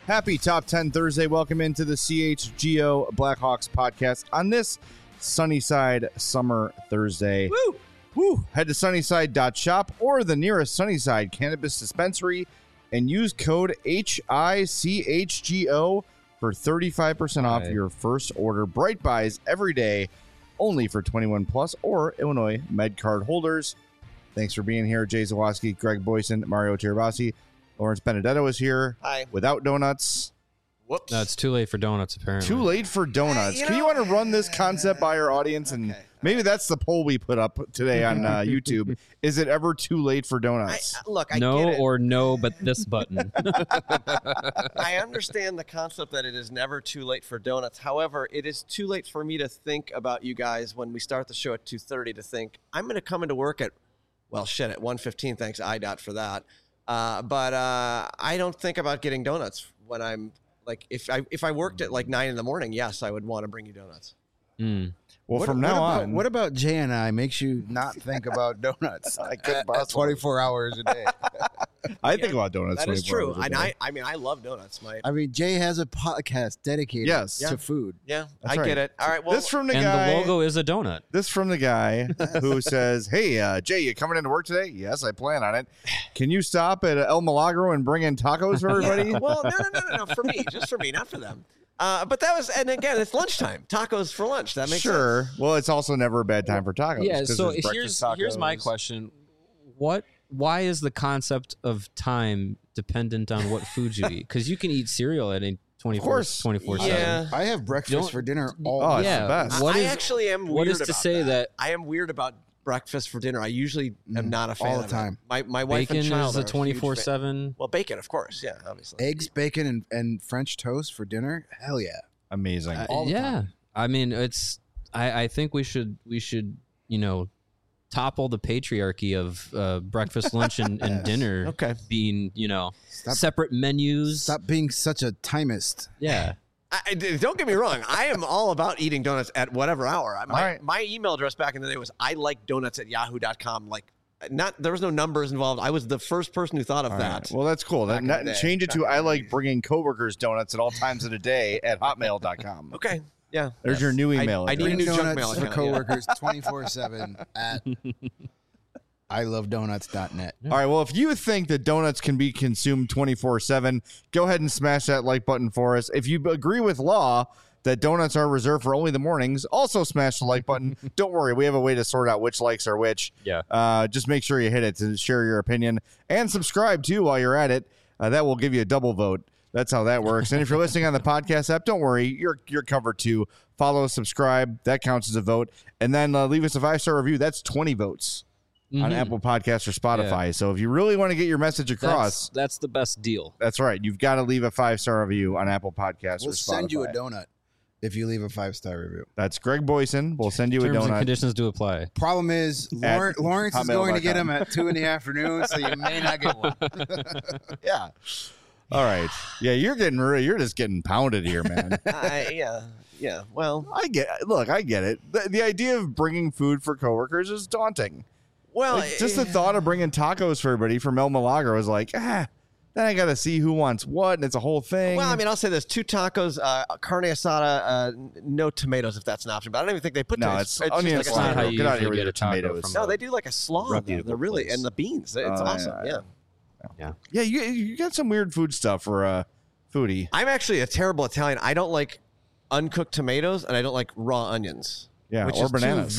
Happy Top 10 Thursday. Welcome into the CHGO Blackhawks podcast on this Sunnyside Summer Thursday. Woo! Woo! Head to sunnyside.shop or the nearest Sunnyside Cannabis Dispensary and use code HICHGO for 35% off your first order. Bright Buys every day, only for 21 plus or Illinois MedCard holders. Thanks for being here. Jay Zawaski, Greg Boyson, Mario Tirabassi. Lawrence Benedetto is here. Hi. Without donuts. Whoops. No, it's too late for donuts, apparently. Too late for donuts. You Can you know- want to run this concept by our audience? And maybe that's the poll we put up today on YouTube. Is it ever too late for donuts? I no get it. or no, but this button. I understand the concept that it is never too late for donuts. However, it is too late for me to think about you guys when we start the show at 2:30 to think, I'm going to come into work at 1:15. Thanks, IDOT, for that. But I don't think about getting donuts when I'm like, if I worked at like 9 in the morning, yes, I would want to bring you donuts. Well, from now on. What about Jay and I makes you not think about donuts I couldn't possibly. 24 hours a day? I think about donuts. That is 24 true. hours a And day. I love donuts. I mean, Jay has a podcast dedicated Yes. to food. Yeah, That's I right. get it. All right, well, This from the And guy. the logo is a donut. This from the guy who says, "Hey, Jay, you coming into work today?" Yes, I plan on it. Can you stop at El Milagro and bring in tacos for everybody? well, no, for me, just for me, not for them. But that was, and again, it's lunchtime. Tacos for lunch. That makes Sure. sense. Well, it's also never a bad time for tacos. Yeah, 'cause so there's breakfast here's my tacos. question. Why is the concept of time dependent on what food you eat? Because you can eat cereal at any 24/7. Yeah. I have breakfast Don't- for dinner all Oh, it's Yeah. the best. What I is- actually am weird what is to about say that- I am weird about breakfast for dinner. I usually am not a fan all the of time. It. My wife Bacon and child is are a huge 24/7. Well, bacon, of course. Yeah, obviously. eggs, bacon, and French toast for dinner. Hell yeah! Amazing. all the Yeah, time. I mean, it's. I think we should topple the patriarchy of breakfast, lunch, and dinner. Okay. Being Stop- separate menus. Stop being such a timist. Yeah. Don't get me wrong. I am all about eating donuts at whatever hour. right. My email address back in the day was ilikedonuts@yahoo.com. Like, there was no numbers involved. I was the first person who thought of All that. right. Well, that's cool. Back in the day. Change it to I like bringing coworkers donuts at all times of the day at hotmail.com. Okay. Yeah. There's your new email I address. need a new junk donuts mail for account, coworkers 24/7 at ilovedonuts.net. All right. Well, if you think that donuts can be consumed 24/7, go ahead and smash that like button for us. If you agree with Law that donuts are reserved for only the mornings, also smash the like button. Don't worry. We have a way to sort out which likes are which. Yeah. Just make sure you hit it to share your opinion and subscribe too while you're at it. That will give you a double vote. That's how that works. And if you're listening on the podcast app, don't worry. You're covered too. Follow, subscribe. That counts as a vote. And then leave us a 5-star review. That's 20 votes on Apple Podcasts or Spotify. Yeah. So if you really want to get your message across, That's the best deal. that's right. You've got to leave a 5-star review on Apple Podcasts or We'll Spotify. send you a donut if you leave a 5-star review. That's Greg Boyson. We'll send you Terms a and donut. conditions do apply. Problem is, At Lawrence is going to get hotmail.com. them at 2 in the afternoon, so you may not get one. Yeah. All right. Yeah, you're just getting pounded here, man. Yeah. Well, I get it. The idea of bringing food for coworkers is daunting. Like, just the thought of bringing tacos for everybody from El Milagro is like, then I got to see who wants what, and it's a whole thing. Well, I mean, I'll say this: 2 tacos, carne asada, no tomatoes if that's an option. But I don't even think they put No, tomatoes. it's onion just slaughter. not how Get you out of here usually with get your a taco tomatoes. from no, they do like a slaw. Reputable They're really place. and the beans. It's awesome. Yeah. Yeah, you got some weird food stuff for a foodie. I'm actually a terrible Italian. I don't like uncooked tomatoes, and I don't like raw onions. Yeah, which or is bananas.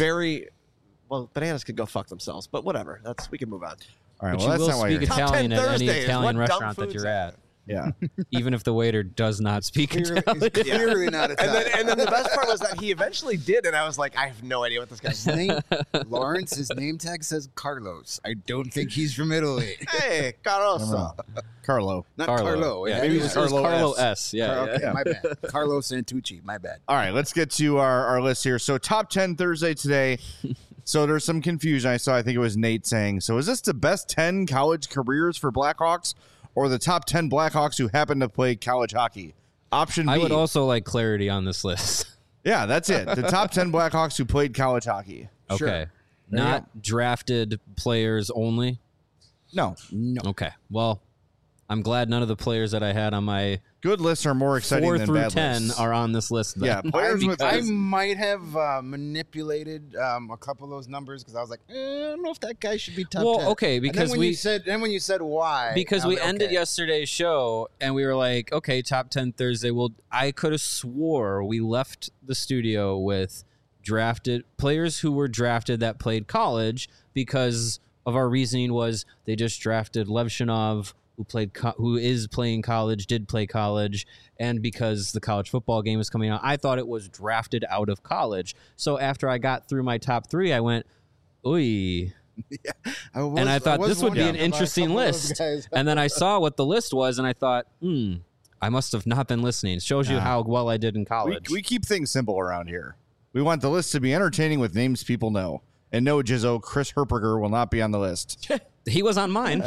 Bananas could go fuck themselves, but whatever. We can move on. All right, But well, you that's will not why you're speak here. Top 10 Italian at any Thursdays. Italian What dumb restaurant that foods you're are at, Yeah. even if the waiter does not speak Clearly, Italian. it's clearly not Italian. And then the best part was that he eventually did, and I was like, I have no idea what this guy's His name, Lawrence, his name tag says Carlos. I don't think he's from Italy. Hey, Carlos. Carlo. Not Carlo. Carlo. Yeah, Yeah, maybe it it was was Carlo Carlo S. S. Yeah. Okay, yeah. my bad. Carlo Santucci. My bad. All right, let's get to our list here. So top 10 Thursday today. So there's some confusion. I think it was Nate saying, so is this the best 10 college careers for Blackhawks or the top 10 Blackhawks who happen to play college hockey? Option B. I would also like clarity on this list. Yeah, that's it. The top 10 Blackhawks who played college hockey. Sure. Okay. you Not drafted players only. No. No. Okay. Well, I'm glad none of the players that I had on my Good lists are more exciting 4 than through bad 10 lists. are on this list. Then. Yeah, players with I might have manipulated a couple of those numbers because I was like, I don't know if that guy should be top 10. Okay, because when you said why, because I was we like, ended okay. yesterday's show and we were like, okay, top 10 Thursday. Well, I could have swore we left the studio with drafted players who were drafted that played college because of our reasoning was they just drafted Levshinov, who is playing college, did play college, and because the college football game is coming out, I thought it was drafted out of college. So after I got through my top 3, I went, ooh. And I thought this would be an interesting list. And then I saw what the list was, and I thought, I must have not been listening. It shows you how well I did in college. we keep things simple around here. We want the list to be entertaining with names people know. And no, Jizzo, Chris Herperger will not be on the list. He was on mine.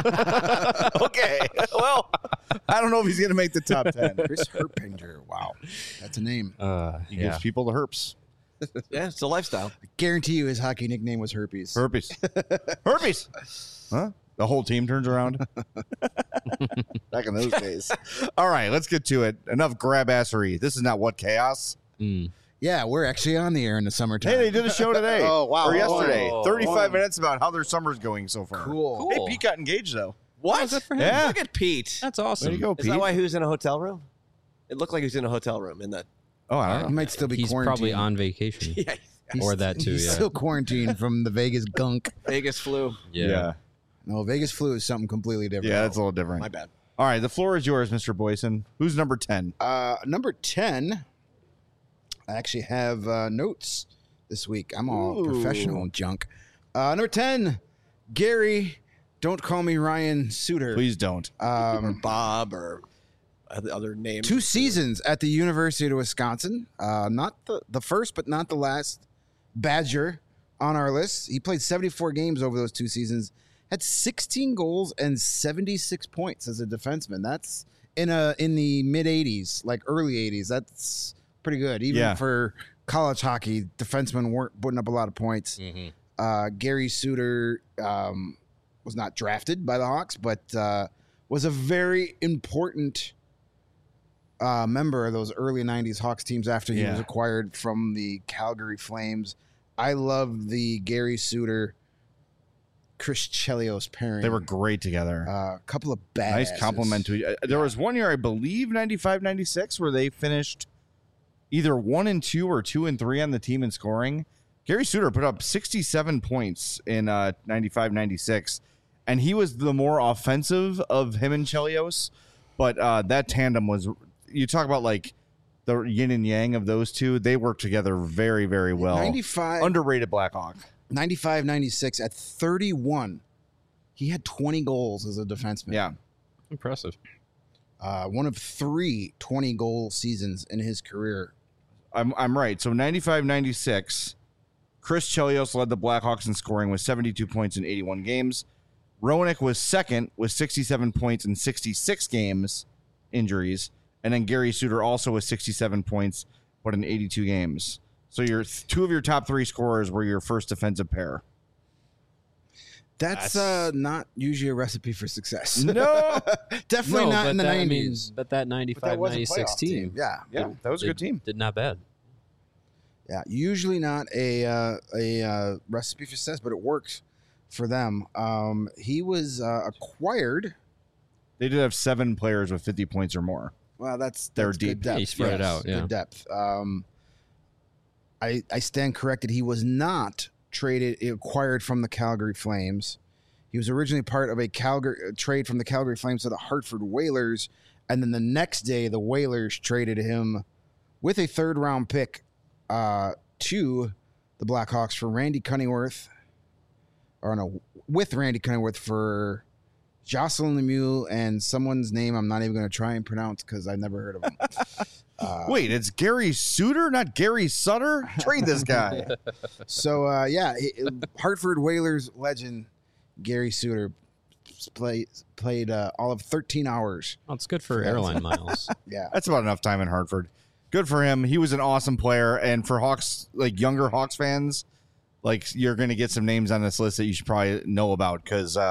Okay. Well, I don't know if he's going to make the top 10. Chris Herpinger. Wow, that's a name. He gives people the herps. Yeah, it's a lifestyle. I guarantee you, his hockey nickname was Herpes. Herpes. Herpes. Huh? The whole team turns around. Back in those days. All right, let's get to it. Enough grab-assery. This is not What Chaos. Yeah, we're actually on the air in the summertime. Hey, they did a show today. Oh, wow. Or yesterday. Oh, 35 minutes about how their summer's going so far. Cool. Hey, Pete got engaged, though. What? good for him. Yeah. Look at Pete. That's There awesome. you go, Is Pete. that why he was in a hotel room? It looked like he was in a hotel room in that. Oh, I He don't know. might still be He's quarantined. probably on vacation. Yeah. Or that too, He's yeah. still quarantined from the Vegas gunk. Vegas flu. Yeah. No, Vegas flu is something completely different. Yeah, that's a little different. My bad. All right, the floor is yours, Mr. Boyson. Who's number 10? Number 10, I actually have notes this week. I'm all professional junk. Number 10, Gary, don't call me Ryan Suter. Please don't. Or Bob or other names. 2 seasons at the University of Wisconsin. Not the first, but not the last Badger on our list. He played 74 games over those 2 seasons. Had 16 goals and 76 points as a defenseman. That's in the mid 80s, like early 80s. That's pretty good. Even for college hockey, defensemen weren't putting up a lot of points. Gary Suter was not drafted by the Hawks, but was a very important member of those early 90s Hawks teams after he was acquired from the Calgary Flames. I love the Gary Suter Chris Chelios pairing. They were great together. A couple of bad. Nice compliment to you. There was one year, I believe, 95-96, where they finished either 1-2 or 2-3 on the team in scoring. Gary Suter put up 67 points in 95-96, and he was the more offensive of him and Chelios. But that tandem was, you talk about like the yin and yang of those two. They worked together very, very well. 95, Underrated Blackhawk. 95-96 at 31. He had 20 goals as a defenseman. Yeah. Impressive. One of 3 20-goal seasons in his career. I'm right. So 95-96, Chris Chelios led the Blackhawks in scoring with 72 points in 81 games. Roenick was second with 67 points in 66 games, injuries. And then Gary Suter also with 67 points, but in 82 games. So your 2 of your top 3 scorers were your first defensive pair. That's not usually a recipe for success. No. Definitely not in the 90s. I mean, but that But that was a 95-96 playoff team. Yeah. Yeah, that was a good team. Did not bad. Yeah, usually not a recipe for success, but it works for them. He was acquired. They did have 7 players with 50 points or more. Well, that's They're good deep. depth. He spread it out, yeah. Good depth. I stand corrected. He was not acquired from the Calgary Flames. He was originally part of a trade from the Calgary Flames to the Hartford Whalers, and then the next day the Whalers traded him with a 3rd-round pick to the Blackhawks for Randy Cunningworth, with Randy Cunningworth for Jocelyn Lemieux and someone's name I'm not even going to try and pronounce because I've never heard of him. Wait, it's Gary Suter, not Gary Sutter? Trade this guy. So, Hartford Whalers legend Gary Suter played all of 13 hours. Well, it's good for airline miles. Yeah. That's about enough time in Hartford. Good for him. He was an awesome player. And for Hawks, like younger Hawks fans, like you're going to get some names on this list that you should probably know about because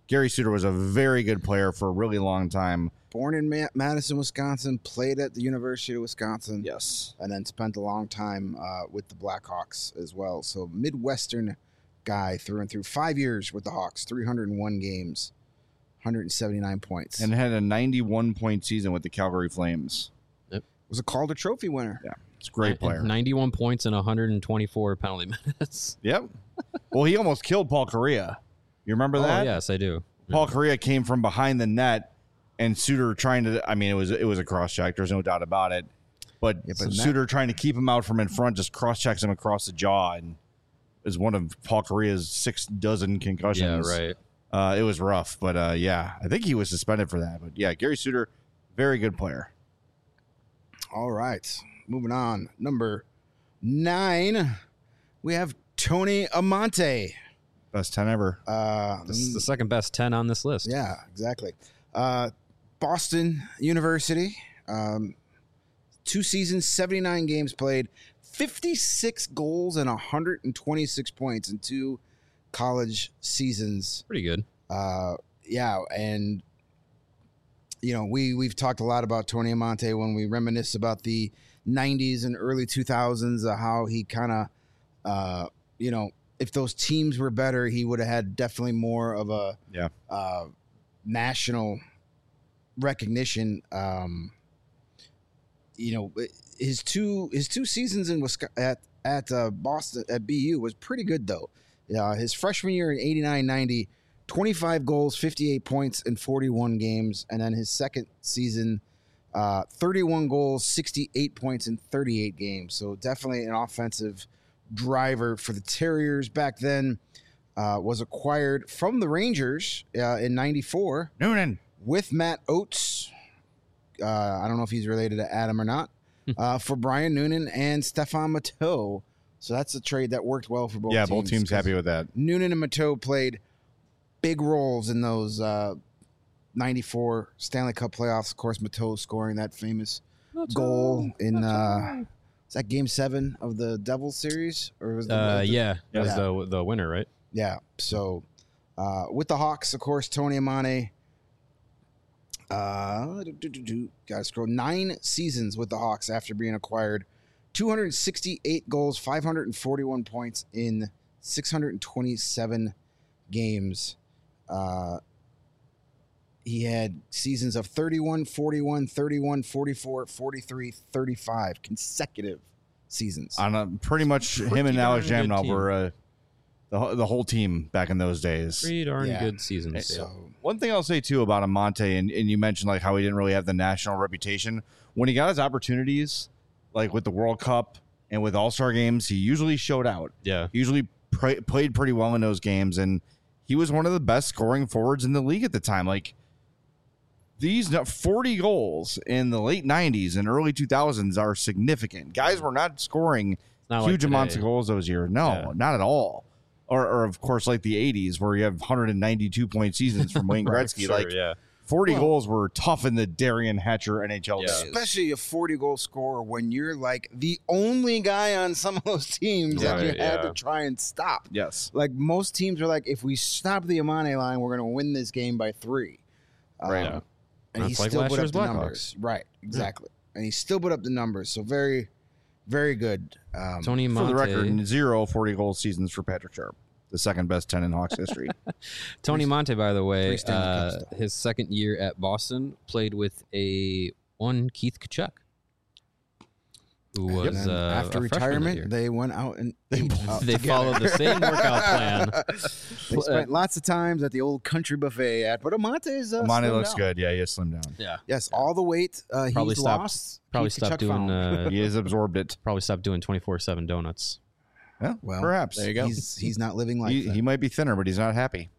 Gary Suter was a very good player for a really long time. Born in Madison, Wisconsin, played at the University of Wisconsin. Yes. And then spent a long time with the Blackhawks as well. So Midwestern guy through and through. 5 years with the Hawks, 301 games, 179 points. And had a 91-point season with the Calgary Flames. Was a Calder Trophy winner. Yeah, it's a great player. 91 points and 124 penalty minutes. Yep. Well, he almost killed Paul Kariya. You remember that? Oh, yes, I do. Paul Kariya came from behind the net, and Suter trying to. I mean, it was a cross check. There's no doubt about it. But Suter trying to keep him out from in front just cross checks him across the jaw, and is one of Paul Kariya's 6 concussions. Yeah, right. It was rough, but yeah, I think he was suspended for that. But yeah, Gary Suter, very good player. All right. Moving on. Number 9, we have Tony Amonte. Best 10 ever. This is the second best 10 on this list. Yeah, exactly. Boston University. 2 seasons, 79 games played, 56 goals and 126 points in 2 college seasons. Pretty good. Yeah, and you know, we've talked a lot about Tony Amonte when we reminisce about the 90s and early 2000s, how he kind of, you know, if those teams were better, he would have had definitely more of a national recognition. You know, his two seasons in Wisconsin, at Boston at BU was pretty good though. His freshman year in 89-90, 25 goals, 58 points in 41 games, and then his second season, 31 goals, 68 points in 38 games. So definitely an offensive driver for the Terriers back then. Was acquired from the Rangers in 94 Noonan with Matt Oates. I don't know if he's related to Adam or not. For Brian Noonan and Stefan Matteau. So that's a trade that worked well for both teams. Yeah, both teams happy with that. Noonan and Matteau played big roles in those 94 Stanley Cup playoffs. Of course, Matteau scoring that famous goal in is that Game 7 of the Devils series, or was that was the winner, right? Yeah. So with the Hawks, of course, Tony Amonte. Got to scroll. 9 seasons with the Hawks after being acquired. 268 goals, 541 points in 627 games. He had seasons of 31, 41, 31, 44, 43, 35 consecutive seasons. On pretty much him and Alex Jamnov were the whole team back in those days. Pretty darn good seasons. So, one thing I'll say too about Amonte, and you mentioned like how he didn't really have the national reputation. When he got his opportunities, like with the World Cup and with All-Star games, he usually showed out. Yeah. He usually played pretty well in those games, and he was one of the best scoring forwards in the league at the time. Like these 40 goals in the late 90s and early 2000s are significant. Guys were not scoring huge amounts of goals those years. No, not at all. Or of course, like the 80s where you have 192-point seasons from Wayne Gretzky. Right, sure, 40 goals were tough in the Darian Hatcher NHL days. Especially a 40-goal scorer when you're like the only guy on some of those teams that you had to try and stop. Yes. Like most teams are like, if we stop the Amonte line, we're going to win this game by 3. Right. And he still put up the numbers. Right, exactly. And he still put up the numbers. So very, very good. Tony Amonte. For the record, 0 40-goal seasons for Patrick Sharp, the second best 10 in Hawks history. Tony Amonte, by the way, his second year at Boston, played with one Keith Tkachuk, who was after retirement. They went out and they followed the same workout plan. They spent lots of times at the old country buffet. But Amonte's Amonte looks good. Yeah, he has slimmed down. Yeah. Yes, all the weight he's lost. Probably stopped doing. He has absorbed it. Probably stopped doing 24/7 donuts. Yeah, well, perhaps. There you go. He's not living like that. He might be thinner, but he's not happy.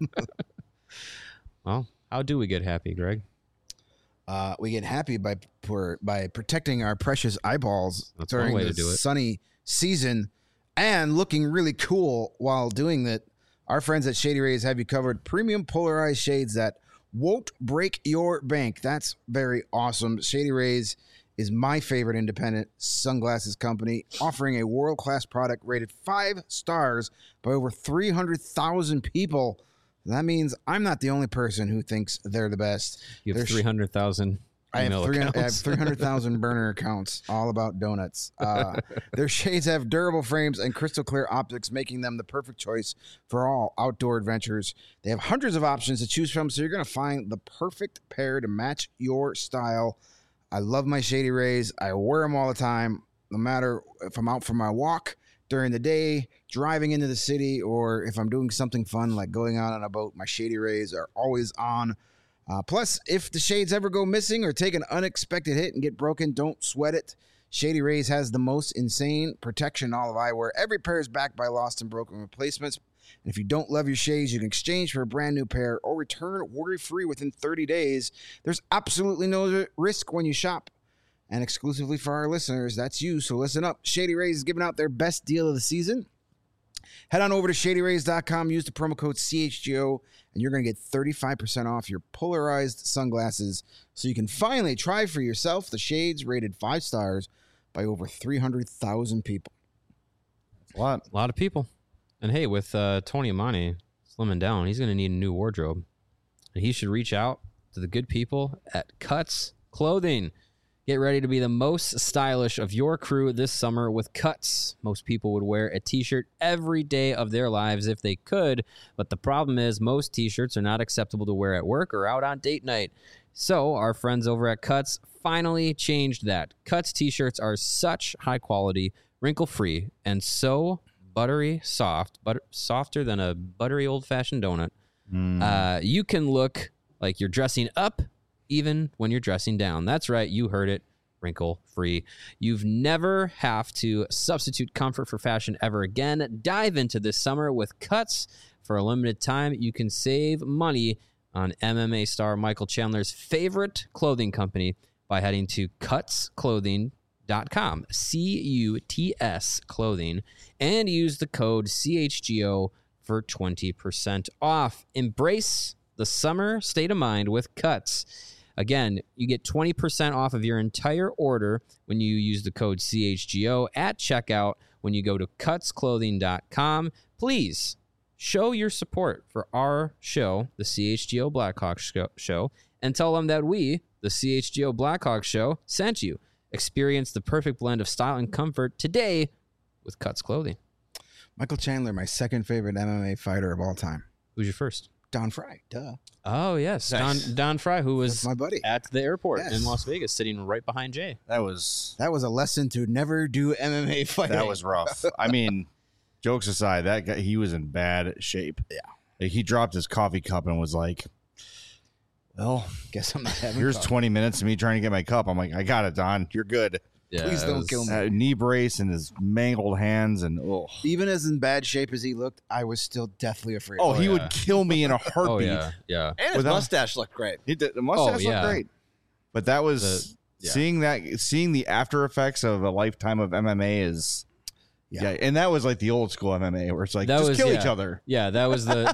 Well, how do we get happy, Greg? We get happy by protecting our precious eyeballs during the sunny season and looking really cool while doing that. Our friends at Shady Rays have you covered. Premium polarized shades that won't break your bank. That's very awesome. Shady Rays is my favorite independent sunglasses company, offering a world-class product rated 5 stars by over 300,000 people. That means I'm not the only person who thinks they're the best. You have There's- 300,000 I have email 300,000 burner accounts all about donuts. Their shades have durable frames and crystal clear optics, making them the perfect choice for all outdoor adventures. They have hundreds of options to choose from, so you're going to find the perfect pair to match your style. I love my Shady Rays. I wear them all the time, no matter if I'm out for my walk during the day, driving into the city, or if I'm doing something fun like going out on a boat. My Shady Rays are always on. Plus, if the shades ever go missing or take an unexpected hit and get broken, don't sweat it. Shady Rays has the most insane protection in all of eyewear. Every pair is backed by lost and broken replacements. And if you don't love your shades, you can exchange for a brand new pair or return worry-free within 30 days. There's absolutely no risk when you shop. And exclusively for our listeners, that's you, so listen up. Shady Rays is giving out their best deal of the season. Head on over to ShadyRays.com, use the promo code CHGO, and you're going to get 35% off your polarized sunglasses so you can finally try for yourself the shades rated 5 stars by over 300,000 people. A lot. A lot of people. And hey, with Tony Amani slimming down, he's going to need a new wardrobe. And he should reach out to the good people at Cuts Clothing. Get ready to be the most stylish of your crew this summer with Cuts. Most people would wear a t-shirt every day of their lives if they could, but the problem is most t-shirts are not acceptable to wear at work or out on date night. So our friends over at Cuts finally changed that. Cuts t-shirts are such high quality, wrinkle-free, and so buttery soft, softer than a buttery old-fashioned donut. You can look like you're dressing up even when you're dressing down. That's right, you heard it, wrinkle-free. You've never have to substitute comfort for fashion ever again. Dive into this summer with Cuts. For a limited time, you can save money on MMA star Michael Chandler's favorite clothing company by heading to cutsclothing.com, C-U-T-S clothing, and use the code CHGO for 20% off. Embrace the summer state of mind with Cuts. Again, you get 20% off of your entire order when you use the code CHGO at checkout when you go to cutsclothing.com. Please show your support for our show, the CHGO Blackhawks Show, and tell them that we, the CHGO Blackhawks Show, sent you. Experience the perfect blend of style and comfort today with Cuts Clothing. Michael Chandler, my second favorite MMA fighter of all time. Who's your first? Don Fry, duh. Oh, yes. Nice. Don Fry, who was That's my buddy. at the airport Yes. in Las Vegas, sitting right behind Jay. That was That was a lesson to never do MMA fighting. that was rough. I mean, jokes aside, that guy, he was in bad shape. Yeah. Like, he dropped his coffee cup and was like, well, Guess I'm not having here's coffee. 20 minutes of me trying to get my cup. I'm like, I got it, Don. You're good. Yeah, Please it don't was- kill me. Knee brace and his mangled hands and Even as in bad shape as he looked, I was still deathly afraid. he yeah. would kill me in a heartbeat. Oh, yeah. Yeah. And his Without- mustache looked great. He did, the mustache yeah. looked great, but that was yeah. seeing the after effects of a lifetime of MMA is Yeah. and that was like the old school MMA where it's like That just was- kill yeah. each other. Yeah, that was the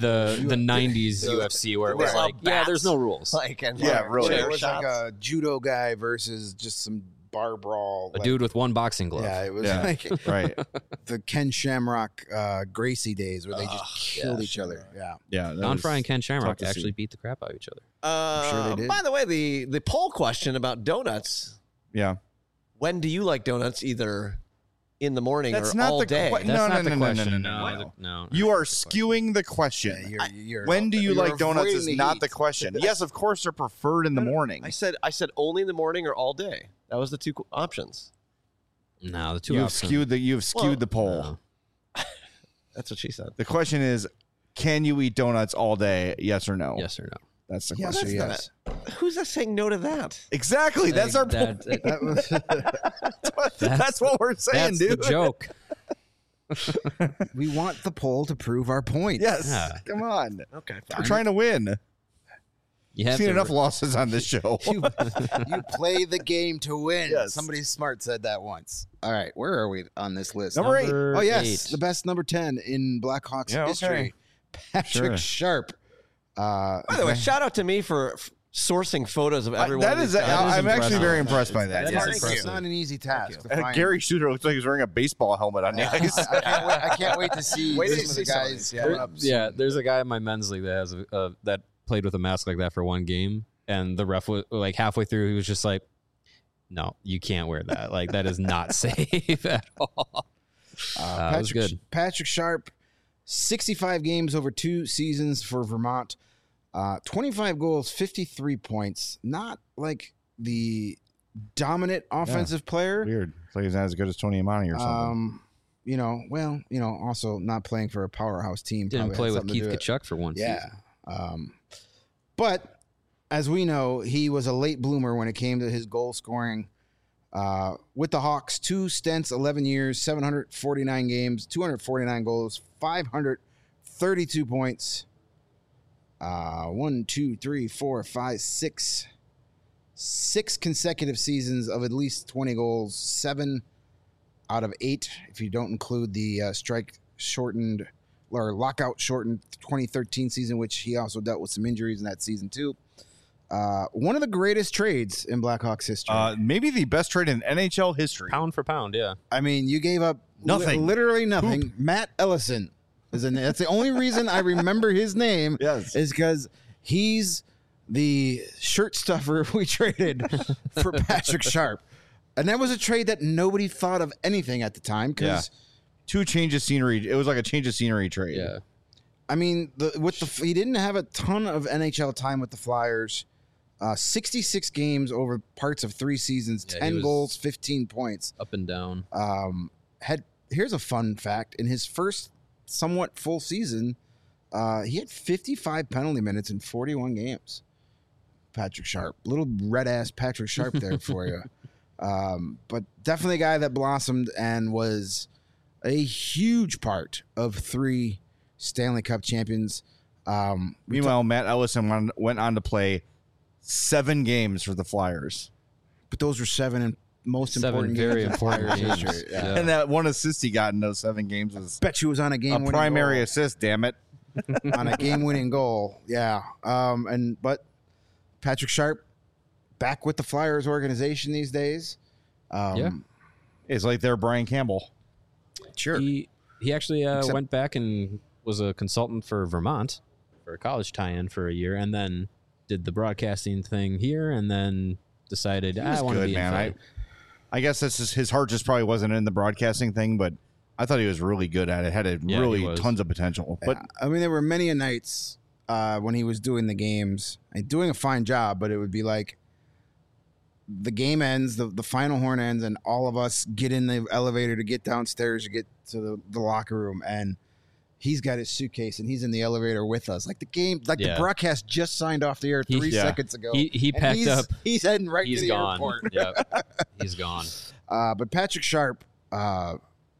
90s UFC where it was Yeah. like, yeah, there's no rules. Like, and Yeah, really. it chair was like shots. a judo guy versus just some bar brawl. A dude with one boxing glove. Yeah, it was Yeah. like Right. the Ken Shamrock Gracie days where they just killed yeah, each other. Yeah. Yeah. that Don was Fry and Ken Shamrock tough to actually see. beat the crap out of each other. sure they did. By the way, the poll question about donuts. Yeah. When do you like donuts? Either in the morning That's or not all the day. que- That's No, not no, the no, no, question. no, no. No. You are That's not the question. skewing the question. Yeah, you're, When do you you're like donuts avoiding is the not heat. the question. Yes, of course they're preferred in the morning. I said only in the morning or all day. That was the two options. No, the two You've options. skewed the poll. No. That's what she said. The question is, can you eat donuts all day? Yes or no? Yes or no? That's the Yes or question. yes. Who's that saying no to that? Exactly. That's our point. That was, That's what we're saying, That's dude. the joke. we want the poll to prove our point. Yes. Yeah. Come on. Okay. We're trying to win. You I've have seen to enough losses on this show. You play the game to win. Yes. Somebody smart said that once. All right, where are we on this list? Number 8. Oh yes, 8. the best number 10 in Blackhawks Yeah, okay. history, Patrick Sure. Sharp. By the way, shout out to me for sourcing photos of everyone. That is, I'm actually very impressed by that. That Yeah. is It's impressive. not an easy task to find. Gary Shooter looks like he's wearing a baseball helmet on the ice. I can't wait to see Wait till some you of see the some of guys these, coming up. Yeah, there's a guy in my men's league that has that played with a mask like that for one game, and the ref was like halfway through, he was just like, "No, you can't wear that. Like that is not safe at all." It was good. Patrick Sharp, 65 games over 2 seasons for Vermont. 25 goals, 53 points. Not like the dominant offensive player. Weird. It's like he's not as good as Tony Imani or something. Also not playing for a powerhouse team. Didn't probably play had with something to Keith do Kachuk for one Yeah. season. But as we know, he was a late bloomer when it came to his goal scoring. With the Hawks, 2 stints, 11 years, 749 games, 249 goals, 532 points. 6 consecutive seasons of at least 20 goals, 7 out of 8, if you don't include the strike shortened or lockout shortened 2013 season, which he also dealt with some injuries in that season too. One of the greatest trades in Blackhawks history. Maybe the best trade in NHL history. Pound for pound, yeah. I mean, you gave up Nothing. literally nothing. Matt Ellison is in. That's the only reason I remember his name. Yes. Is because he's the shirt stuffer we traded for Patrick Sharp, and that was a trade that nobody thought of anything at the time. Because 2 changes scenery. It was like a change of scenery trade. Yeah. I mean, he didn't have a ton of NHL time with the Flyers. 66 games over parts of 3 seasons, Yeah, 10 goals, 15 points. Up and down. Here's a fun fact: in his first somewhat full season, he had 55 penalty minutes in 41 games. Patrick Sharp, little red ass Patrick Sharp there for you. But definitely a guy that blossomed and was a huge part of 3 Stanley Cup champions. Meanwhile, Matt Ellison went on to play 7 games for the Flyers. But those were 7 most 7 important very games in important Flyers games. history. Yeah. Yeah. And that one assist he got in those 7 games was Bet you was on a a game-winning primary goal. assist, damn it. On a game-winning goal. Yeah. But Patrick Sharp back with the Flyers organization these days. Yeah. It's like they're Brian Campbell. Sure. He actually Except- went back and was a consultant for Vermont for a college tie-in for a year, and then did the broadcasting thing here, and then decided I want to Good, be man. in I guess that's just, his heart just probably wasn't in the broadcasting thing, but I thought he was really good at it. Had Yeah, really he was. tons of potential. But I mean, there were many a nights when he was doing the games and doing a fine job, but it would be like the game ends, the final horn ends, and all of us get in the elevator to get downstairs to get to the locker room, and he's got his suitcase and he's in the elevator with us. Like the game, like the Yeah. broadcast just signed off the air 3 Yeah. seconds ago. He And packed up. He's heading right He's to the gone. airport. Yep. He's gone. But Patrick Sharp, the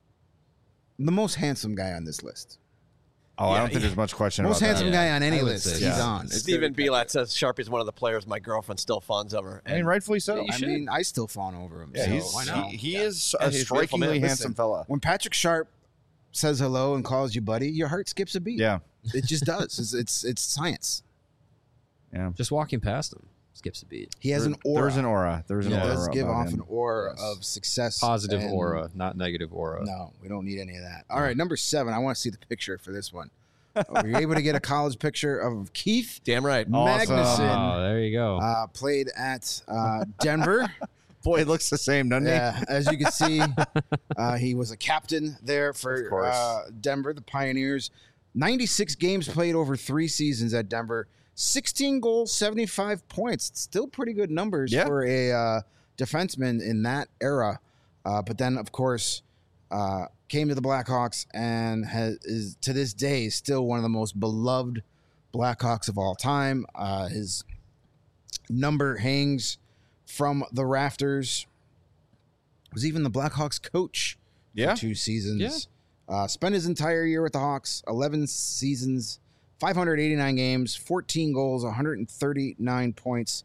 most handsome guy on this list. I don't think there's much question Most about handsome that. Yeah, guy on any I would list. say He's so. on. It's Stephen very- Belat says Sharpie's one of the players my girlfriend still fawns over. I mean, rightfully so. You I should. mean, I still fawn over him. Yeah, so he's, why not? he is Yeah, a he's a beautiful strikingly man. handsome Listen, fella. When Patrick Sharp says hello and calls you buddy, your heart skips a beat. Yeah. It just does. It's science. Yeah. Just walking past him skips a beat. He has an aura. There's an aura. There's an He aura. does give about off him. an aura Yes. of success. Positive and- aura, not negative aura. No, we don't need any of that. All right, number 7. I want to see the picture for this one. Were you able to get a college picture of Keith Damn right. Awesome. Magnuson? Oh, there you go. Played at Denver. Boy, it looks the same, doesn't Yeah, as you can see, he was a captain there Of for course. Denver, the Pioneers. 96 games played over 3 seasons at Denver. 16 goals, 75 points. Still pretty good numbers Yeah. for a defenseman in that era. But then, of course, came to the Blackhawks and is to this day still one of the most beloved Blackhawks of all time. His number hangs from the rafters. Was even the Blackhawks coach Yeah. for 2 seasons. Spent his entire year with the Hawks, 11 seasons, 589 games, 14 goals, 139 points,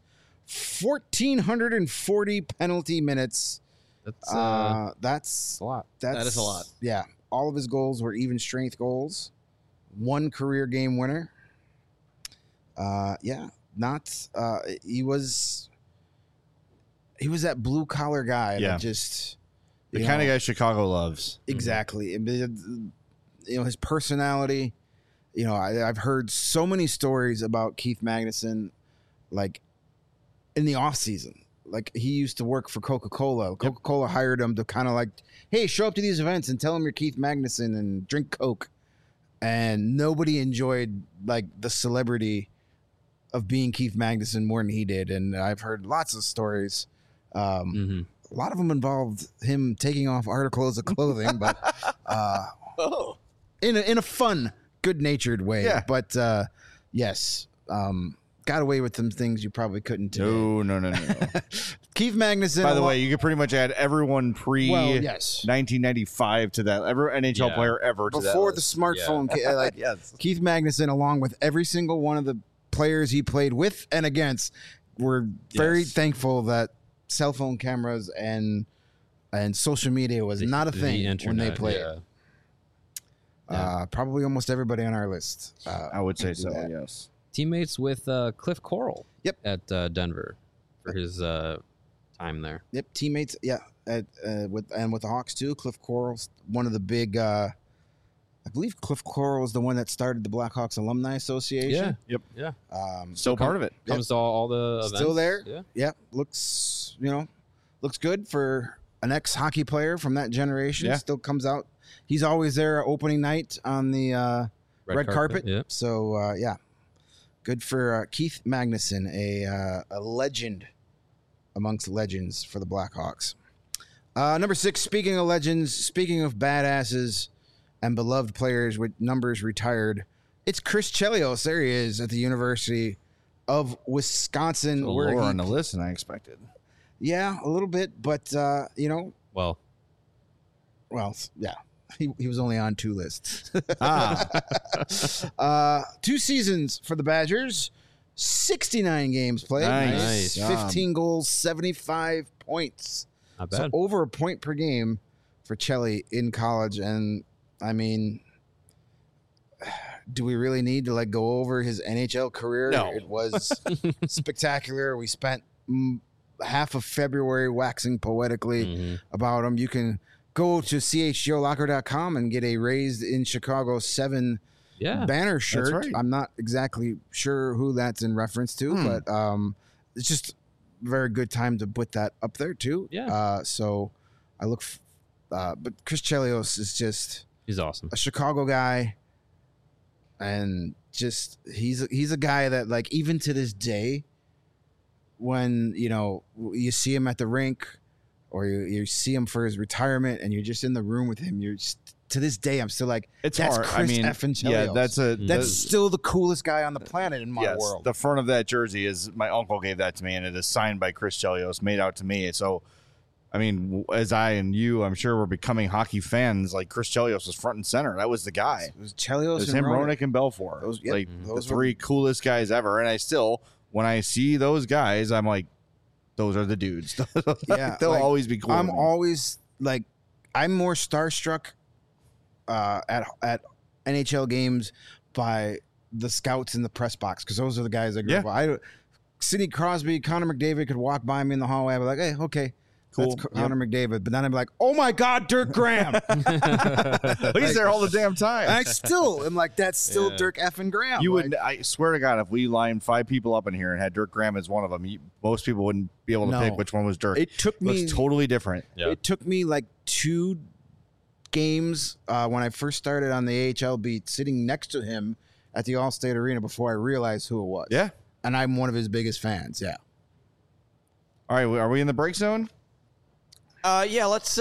1,440 penalty minutes. That's That's a lot. That is a lot. Yeah. All of his goals were even strength goals. 1 career game winner. Yeah. he was that blue collar guy Yeah. that just The you kind of know, guy Chicago loves. exactly. His personality. I've heard so many stories about Keith Magnuson, like in the off season. Like he used to work for Coca-Cola. Coca-Cola hired him to kind of like, hey, show up to these events and tell them you're Keith Magnuson and drink Coke. And nobody enjoyed like the celebrity of being Keith Magnuson more than he did. And I've heard lots of stories. A lot of them involved him taking off articles of clothing, but in a fun, good-natured way. Yeah. But yes, got away with some things you probably couldn't today. No. Keith Magnuson. By the way, you could pretty much add everyone pre yes. 1995 to that. Every NHL player ever to Before that the list. smartphone, like Yes. Keith Magnuson, along with every single one of the players he played with and against, were very thankful that cell phone cameras and social media was not a thing when they played. Probably almost everybody on our list. I would say do so, that. yes. Teammates with Cliff Coral. Yep. At Denver for his time there. Yep, teammates. Yeah, with the Hawks too. Cliff Coral's one of the big. I believe Cliff Coral was the one that started the Blackhawks Alumni Association. Yeah. Still part of it. Comes to all the events. Still there. Yeah. Yeah, looks good for an ex-hockey player from that generation. Yeah. Still comes out. He's always there opening night on the red carpet. Yeah. So yeah, good for Keith Magnuson, a legend amongst legends for the Blackhawks. Number 6, speaking of legends, speaking of badasses and beloved players with numbers retired, it's Chris Chelios. There he is at the University of Wisconsin. Lower on the list than I expected. Yeah, a little bit, but Well, yeah. He was only on 2 lists. 2 Ah. seasons for the Badgers, 69 games played. Nice. 15 goals, 75 points. not So bad. over a point per game for Chelly in college. And I mean, do we really need to go over his NHL career? No. It was spectacular. We spent half of February waxing poetically about him. You can go to chgolocker.com and get a Raised in Chicago 7 banner shirt. right. I'm not exactly sure who that's in reference to, but it's just a very good time to put that up there too. Yeah. So I look, but Chris Chelios is just He's awesome. a Chicago guy, and just he's a guy that even to this day, when you see him at the rink or you see him for his retirement and you're just in the room with him, to this day I'm still like, It's that's hard. Chris I mean, effing yeah, Chelios. That's still the coolest guy on the planet in my world. The front of that jersey is my uncle gave that to me, and it is signed by Chris Chelios, made out to me. So, I mean, as I and you, I'm sure we're becoming hockey fans. Like Chris Chelios was front and center. That was the guy. It was Chelios, It was and him, Roenick. Ronick, and Belfour. Those the were- 3 coolest guys ever. And I still, when I see those guys, I'm like, those are the dudes. Yeah, They'll always be cool. I'm to me. always I'm more starstruck at NHL games by the scouts in the press box, because those are the guys I grew up with. Sidney Crosby, Connor McDavid could walk by me in the hallway. I'd be like, hey, okay, Cool. that's Connor McDavid. But then I'd be like, oh my God, Dirk Graham. He's there all the damn time. I still am like, that's still Dirk effing Graham. You Like, would, I swear to God, if we lined 5 people up in here and had Dirk Graham as one of them, most people wouldn't be able to No. pick which one was Dirk. It took me. Looks totally different. Yeah. It took me 2 games when I first started on the AHL beat, sitting next to him at the Allstate Arena before I realized who it was. Yeah. And I'm one of his biggest fans. Yeah. All right, are we in the break zone? Yeah, let's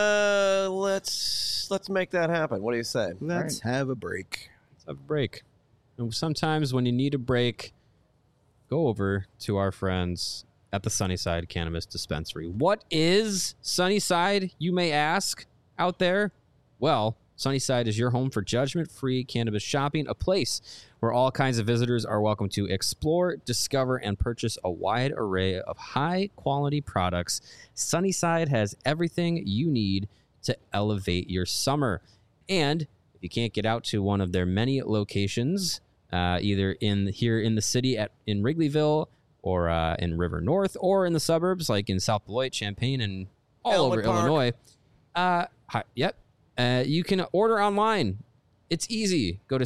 make that happen. What do you say? Let's have a break. Let's have a break. And sometimes when you need a break, go over to our friends at the Sunnyside Cannabis Dispensary. What is Sunnyside, you may ask out there? Well, Sunnyside is your home for judgment-free cannabis shopping, a place where all kinds of visitors are welcome to explore, discover, and purchase a wide array of high-quality products. Sunnyside has everything you need to elevate your summer. And if you can't get out to one of their many locations, either here in the city in Wrigleyville or in River North, or in the suburbs like in South Beloit, Champaign, and all Elmwood over Park. Illinois. You can order online. It's easy. Go to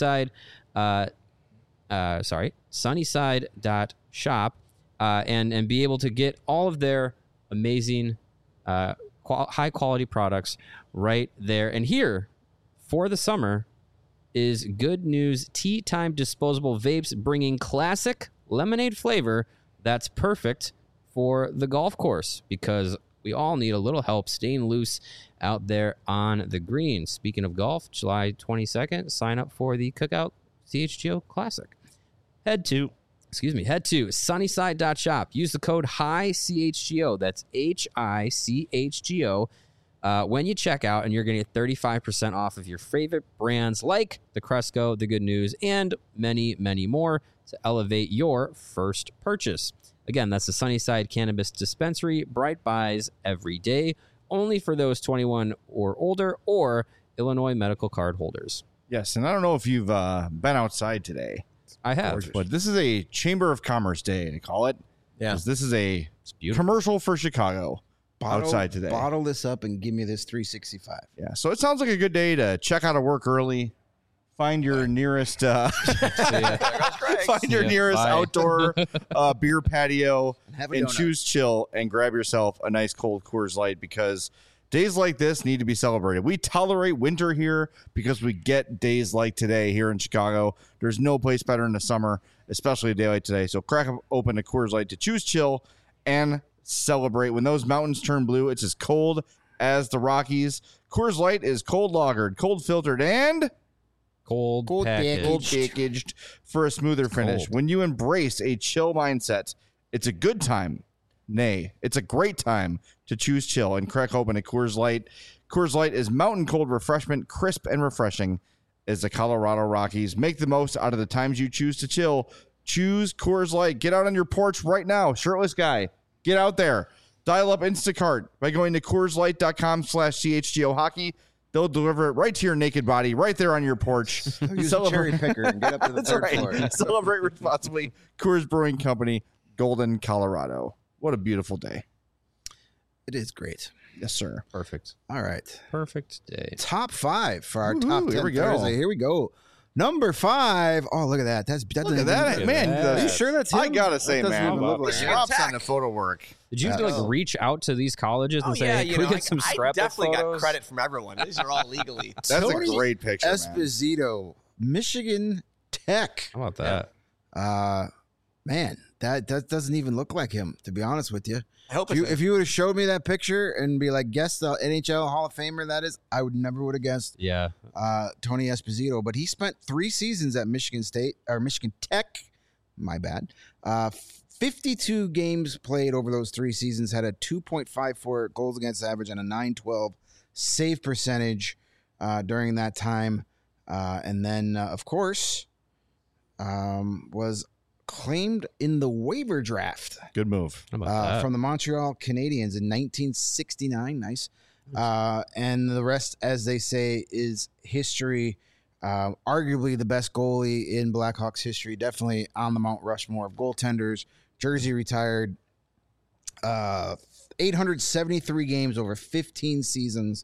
sunnyside.shop and be able to get all of their amazing high quality products right there. And here for the summer is Good News Tea Time disposable vapes, bringing classic lemonade flavor that's perfect for the golf course, because we all need a little help staying loose out there on the green. Speaking of golf, July 22nd, sign up for the Cookout CHGO Classic. Head to sunnyside.shop. Use the code HICHGO. That's HICHGO when you check out, and you're going to get 35% off of your favorite brands like the Cresco, the Good News, and many, many more to elevate your first purchase. Again, that's the Sunnyside Cannabis Dispensary. Bright buys every day, only for those 21 or older or Illinois medical card holders. Yes, and I don't know if you've been outside today. I have. But this is a Chamber of Commerce Day, they call it. Yeah. 'Cause this is a beautiful. commercial for Chicago outside today. Bottle this up and give me this 365. Yeah, so it sounds like a good day to check out of work early, find your nearest There goes Greg. find your Yeah, nearest bye. outdoor beer patio Have a and donut. choose chill and grab yourself a nice cold Coors Light, because days like this need to be celebrated. We tolerate winter here because we get days like today here in Chicago. There's no place better in the summer, especially a day like today. So crack open a Coors Light to choose chill and celebrate. When those mountains turn blue, it's as cold as the Rockies. Coors Light is cold lagered, cold filtered, and Cold packaged. cold packaged for a smoother finish. Cold. When you embrace a chill mindset, it's a good time. Nay, it's a great time to choose chill and crack open a Coors Light. Coors Light is mountain cold refreshment, crisp and refreshing as the Colorado Rockies. Make the most out of the times you choose to chill. Choose Coors Light. Get out on your porch right now. Shirtless guy, get out there. Dial up Instacart by going to CoorsLight.com/CHGO Hockey. They'll deliver it right to your naked body, right there on your porch. Use a cherry picker and get up to the That's third right. floor. Celebrate responsibly. Coors Brewing Company, Golden, Colorado. What a beautiful day. It is great. Yes, sir. Perfect. All right. Perfect day. Top 5 for our Woohoo, top 10 here we go. Thursday. Here we go. Number 5. Oh, look at that. That Look doesn't at that. Look at Man, that. Are you sure that's him? I gotta say, That doesn't man, even look like Michigan him. props Tech. on the photo work. Did you have to like reach out to these colleges and Oh, say, yeah, hey, you can know, we get some I scrapbook definitely photos? got credit from everyone. These are all legally. That's Tony a great picture, man. Esposito, Michigan Tech. How about that? Man, that doesn't even look like him, to be honest with you. I hope If you, it's if you would have showed me that picture and be like, guess the NHL Hall of Famer that is, I would never would have guessed Yeah. Tony Esposito. But he spent 3 seasons at Michigan State or Michigan Tech. My bad. 52 games played over those 3 seasons, had a 2.54 goals against average and a 912 save percentage during that time. And then, of course, was claimed in the waiver draft Good move. How about that? from the Montreal Canadiens in 1969. Nice. And the rest, as they say, is history. Arguably the best goalie in Blackhawks history. Definitely on the Mount Rushmore of goaltenders. Jersey retired. 873 games over 15 seasons.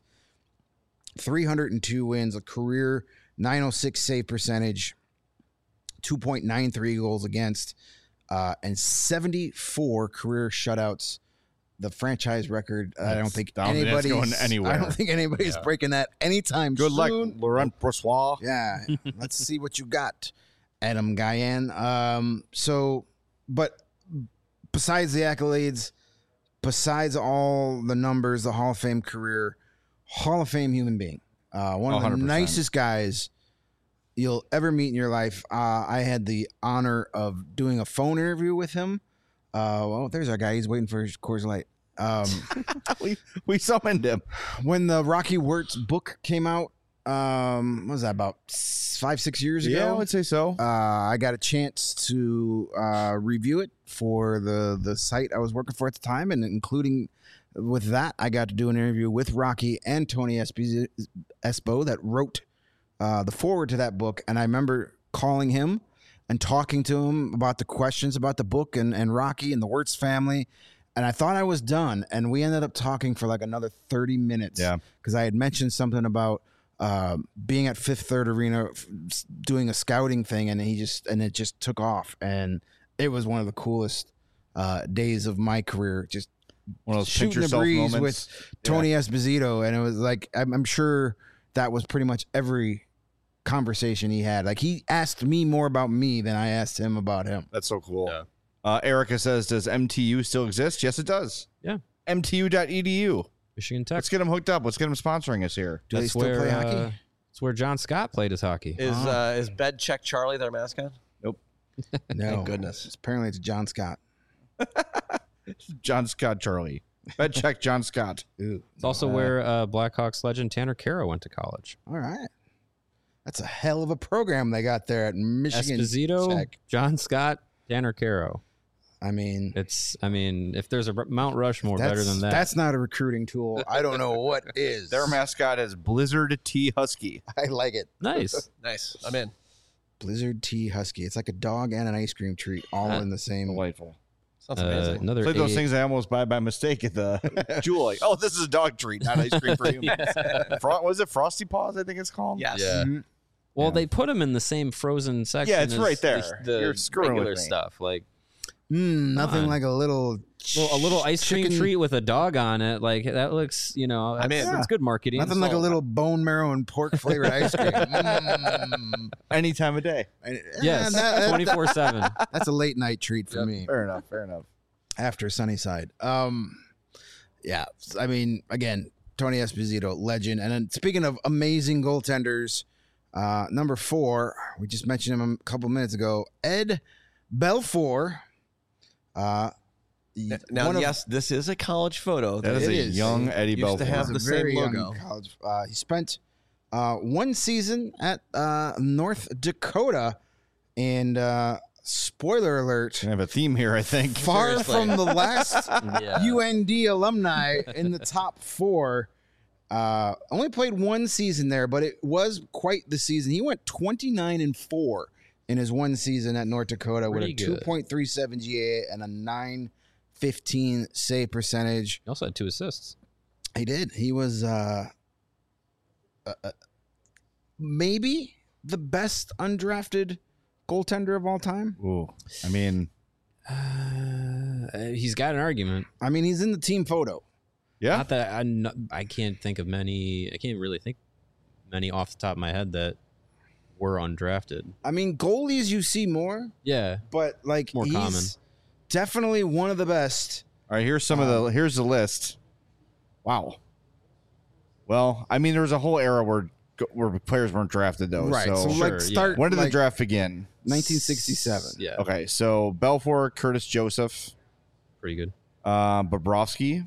302 wins. A career 906 save percentage. 2.93 goals against, and 74 career shutouts. The franchise record. I don't think I don't think that's anybody's going anywhere. I don't think anybody's breaking that anytime Good luck, soon. Laurent Brossois. Yeah, let's see what you got, Adam Guyan. But besides the accolades, besides all the numbers, the Hall of Fame career, Hall of Fame human being, one of the 100%. nicest guys you'll ever meet in your life. I had the honor of doing a phone interview with him. Well, there's our guy. He's waiting for his Coors Light. We summoned him. When the Rocky Wirtz book came out, what was that, about 5-6 years ago? Yeah, I would say so. I got a chance to review it for the site I was working for at the time, and including with that, I got to do an interview with Rocky and Tony Espo that wrote the forward to that book. And I remember calling him and talking to him about the questions about the book and Rocky and the Wirtz family. And I thought I was done. And we ended up talking for like another 30 minutes. Yeah. Because I had mentioned something about being at Fifth Third Arena doing a scouting thing, and it just took off. And it was one of the coolest days of my career. Just One of those shooting pinch the yourself breeze moments. with Tony Esposito. And it was like, I'm sure that was pretty much every conversation he had. Like, he asked me more about me than I asked him about him. That's so cool. Yeah. Erica says, does MTU still exist? Yes, it does. Yeah. MTU.edu. Michigan Tech. Let's get them hooked up. Let's get them sponsoring us here. Do they still play hockey? That's where John Scott played his hockey. Is Bed Check Charlie their mascot? No. Thank goodness. Apparently it's John Scott. John Scott Charlie. Bed check John Scott. Ooh. It's also where Blackhawks legend Tanner Caro went to college. All right. That's a hell of a program they got there at Michigan Esposito, Tech. John Scott, Tanner Caro. I mean, if there's a Mount Rushmore better than that. That's not a recruiting tool. I don't know what is. Their mascot is Blizzard T Husky. I like it. Nice. Nice. I'm in. Blizzard Tea Husky. It's like a dog and an ice cream treat all in the same. Delightful. Sounds amazing. Another It's like those eight- things I almost buy by mistake at the Jewel. Like, oh, this is a dog treat, not ice cream for humans. Was it Frosty Paws? I think it's called. Yes. Yeah. Mhm. Well, Yeah. they put them in the same frozen section. Yeah, it's as right there. The You're screwing with regular me. stuff, like Nothing on. like a little ice cream chicken- treat with a dog on it. Like that looks, that's, I'm in. that's good marketing. Nothing like a So- little bone marrow and pork flavored ice cream. Any time of day. Yes, 24/7. That's a late night treat for Yep. me. Fair enough. Fair enough. After Sunnyside. Yeah. I mean, again, Tony Esposito, legend. And then speaking of amazing goaltenders, number 4, we just mentioned him a couple minutes ago, Ed Belfour. Now, one of- yes, this is a college photo. That is It a is. young Eddie Used to Belfour. have He's the a same very young logo. college. He spent one season at North Dakota, and spoiler alert, I have a theme here, I think. far Seriously. from the last Yeah. UND alumni in the top 4. Only played one season there, but it was quite the season. He went 29-4 in his one season at North Dakota with a Pretty good. 2.37 GA and a 915 save percentage. He also had 2 assists. He did. He was maybe the best undrafted goaltender of all time. Ooh. I mean, He's got an argument. I mean, he's in the team photo. yeah. Not that I can't think of many. I can't really think many off the top of my head that were undrafted. I mean, goalies you see more, Yeah. but like More he's common. definitely one of the best. All right, here's some of the here's the list. Wow. Well, I mean, there was a whole era where players weren't drafted though. Right. So, So, Sure, like start when did like the draft begin? 1967. Yeah. Okay, so Belfour, Curtis Joseph, Pretty good. Bobrovsky.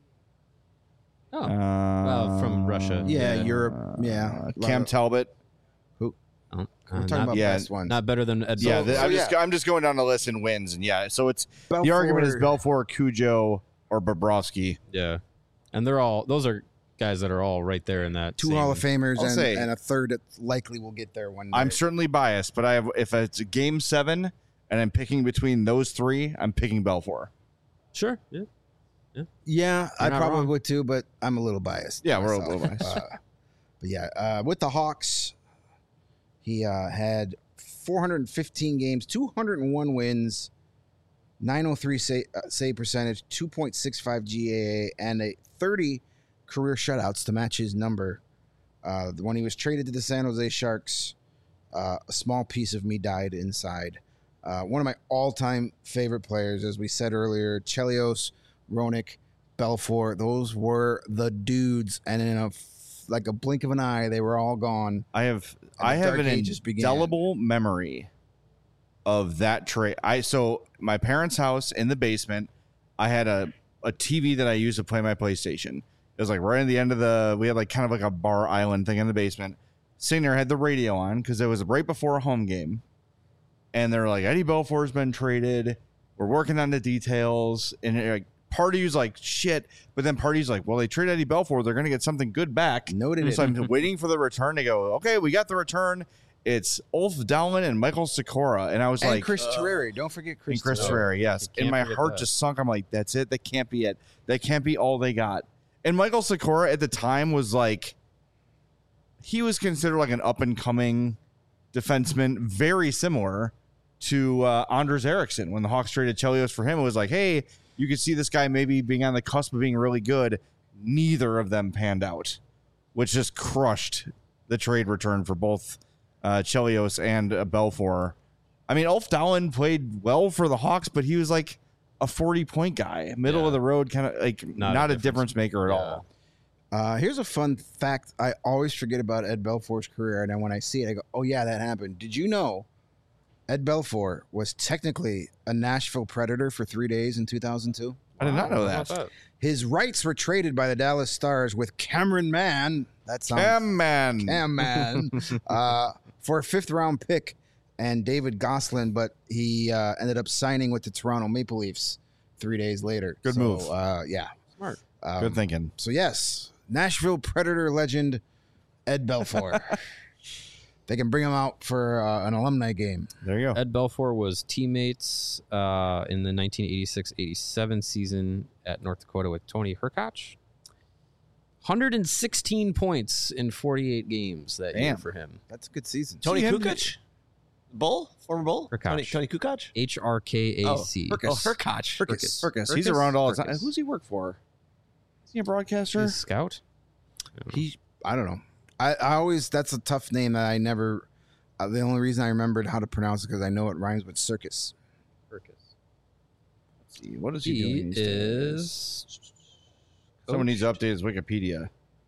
Oh. Well, from Russia. Yeah, Yeah. Europe. Yeah. Cam Talbot. Oh, We're talking not, about yeah, best ones. not better than Ed Yeah, Belfour. I'm just going down the list and wins, and yeah. So it's the Belfour- argument is Belfour, Cujo, or Bobrovsky. Yeah. And those are guys that are all right there in that. 2 same- Hall of Famers I'll say- and a third that likely will get there one day. I'm certainly biased, but if it's a game 7 and I'm picking between those 3, I'm picking Belfour. Sure. Yeah. Yeah, I not probably wrong. would too, but I'm a little biased. Yeah, we're a myself. little biased. But yeah, with the Hawks, he had 415 games, 201 wins, 903 save percentage, 2.65 GAA, and a 30 career shutouts to match his number. When he was traded to the San Jose Sharks, a small piece of me died inside. One of my all-time favorite players, as we said earlier, Chelios, Roenick, Belfour, those were the dudes, and in like a blink of an eye, they were all gone. I have the an Dark Ages began. indelible memory of that trade. So my parents' house in the basement, I had a TV that I used to play my PlayStation. It was like right at the end of we had like kind of like a bar island thing in the basement. Sitting there, I had the radio on because it was right before a home game. And they're like, Eddie Belfour's been traded. We're working on the details. And like, Party's like, shit. But then Party's like, well, they traded Eddie Belfour. They're going to get something good back. No, they And so didn't. I'm waiting for the return to go, okay, we got the return. it's Ulf Dowlin and Michael Sikora, and I was And like, Chris Terreri. Don't forget Chris. and Chris Terreri. Terreri, yes. You And my can't forget heart that. just sunk. I'm like, that's it. That can't be it. That can't be all they got. And Michael Sikora at the time was like, he was considered like an up and coming defenseman, very similar to Anders Eriksson. When the Hawks traded Chelios for him, it was like, hey, you could see this guy maybe being on the cusp of being really good. Neither of them panned out, which just crushed the trade return for both Chelios and Belfour. I mean, Ulf Dowlin played well for the Hawks, but he was like a 40-point guy, middle of the road, kind of like not a difference maker at all. Here's a fun fact I always forget about Ed Belfour's career, and then when I see it, I go, oh, yeah, that happened. Did you know Ed Belfour was technically a Nashville Predator for 3 days in 2002? I did not know How that. about His rights were traded by the Dallas Stars with Cameron Mann. That sounds Cam man. Cam Mann for a 5th-round pick and David Gosselin, but he ended up signing with the Toronto Maple Leafs 3 days later. Good move. Yeah. Smart. Good thinking. So, yes, Nashville Predator legend Ed Belfour. They can bring him out for an alumni game. There you go. Ed Belfour was teammates in the 1986-87 season at North Dakota with Tony Herkoch. 116 points in 48 games that year Damn. for him. That's a good season. Tony See him- Kukoc? Bull? Former Bull? Herkoch. Tony Kukoc? HRKAC. Oh, Herkoch. Herkus. He's around all the time. Herkus. Who's he work for? Is he a broadcaster? He's a scout. I don't know. I always, that's a tough name that I never, the only reason I remembered how to pronounce it because I know it rhymes with circus. Let's see. What is he He doing these days? is. Someone needs to update his Wikipedia.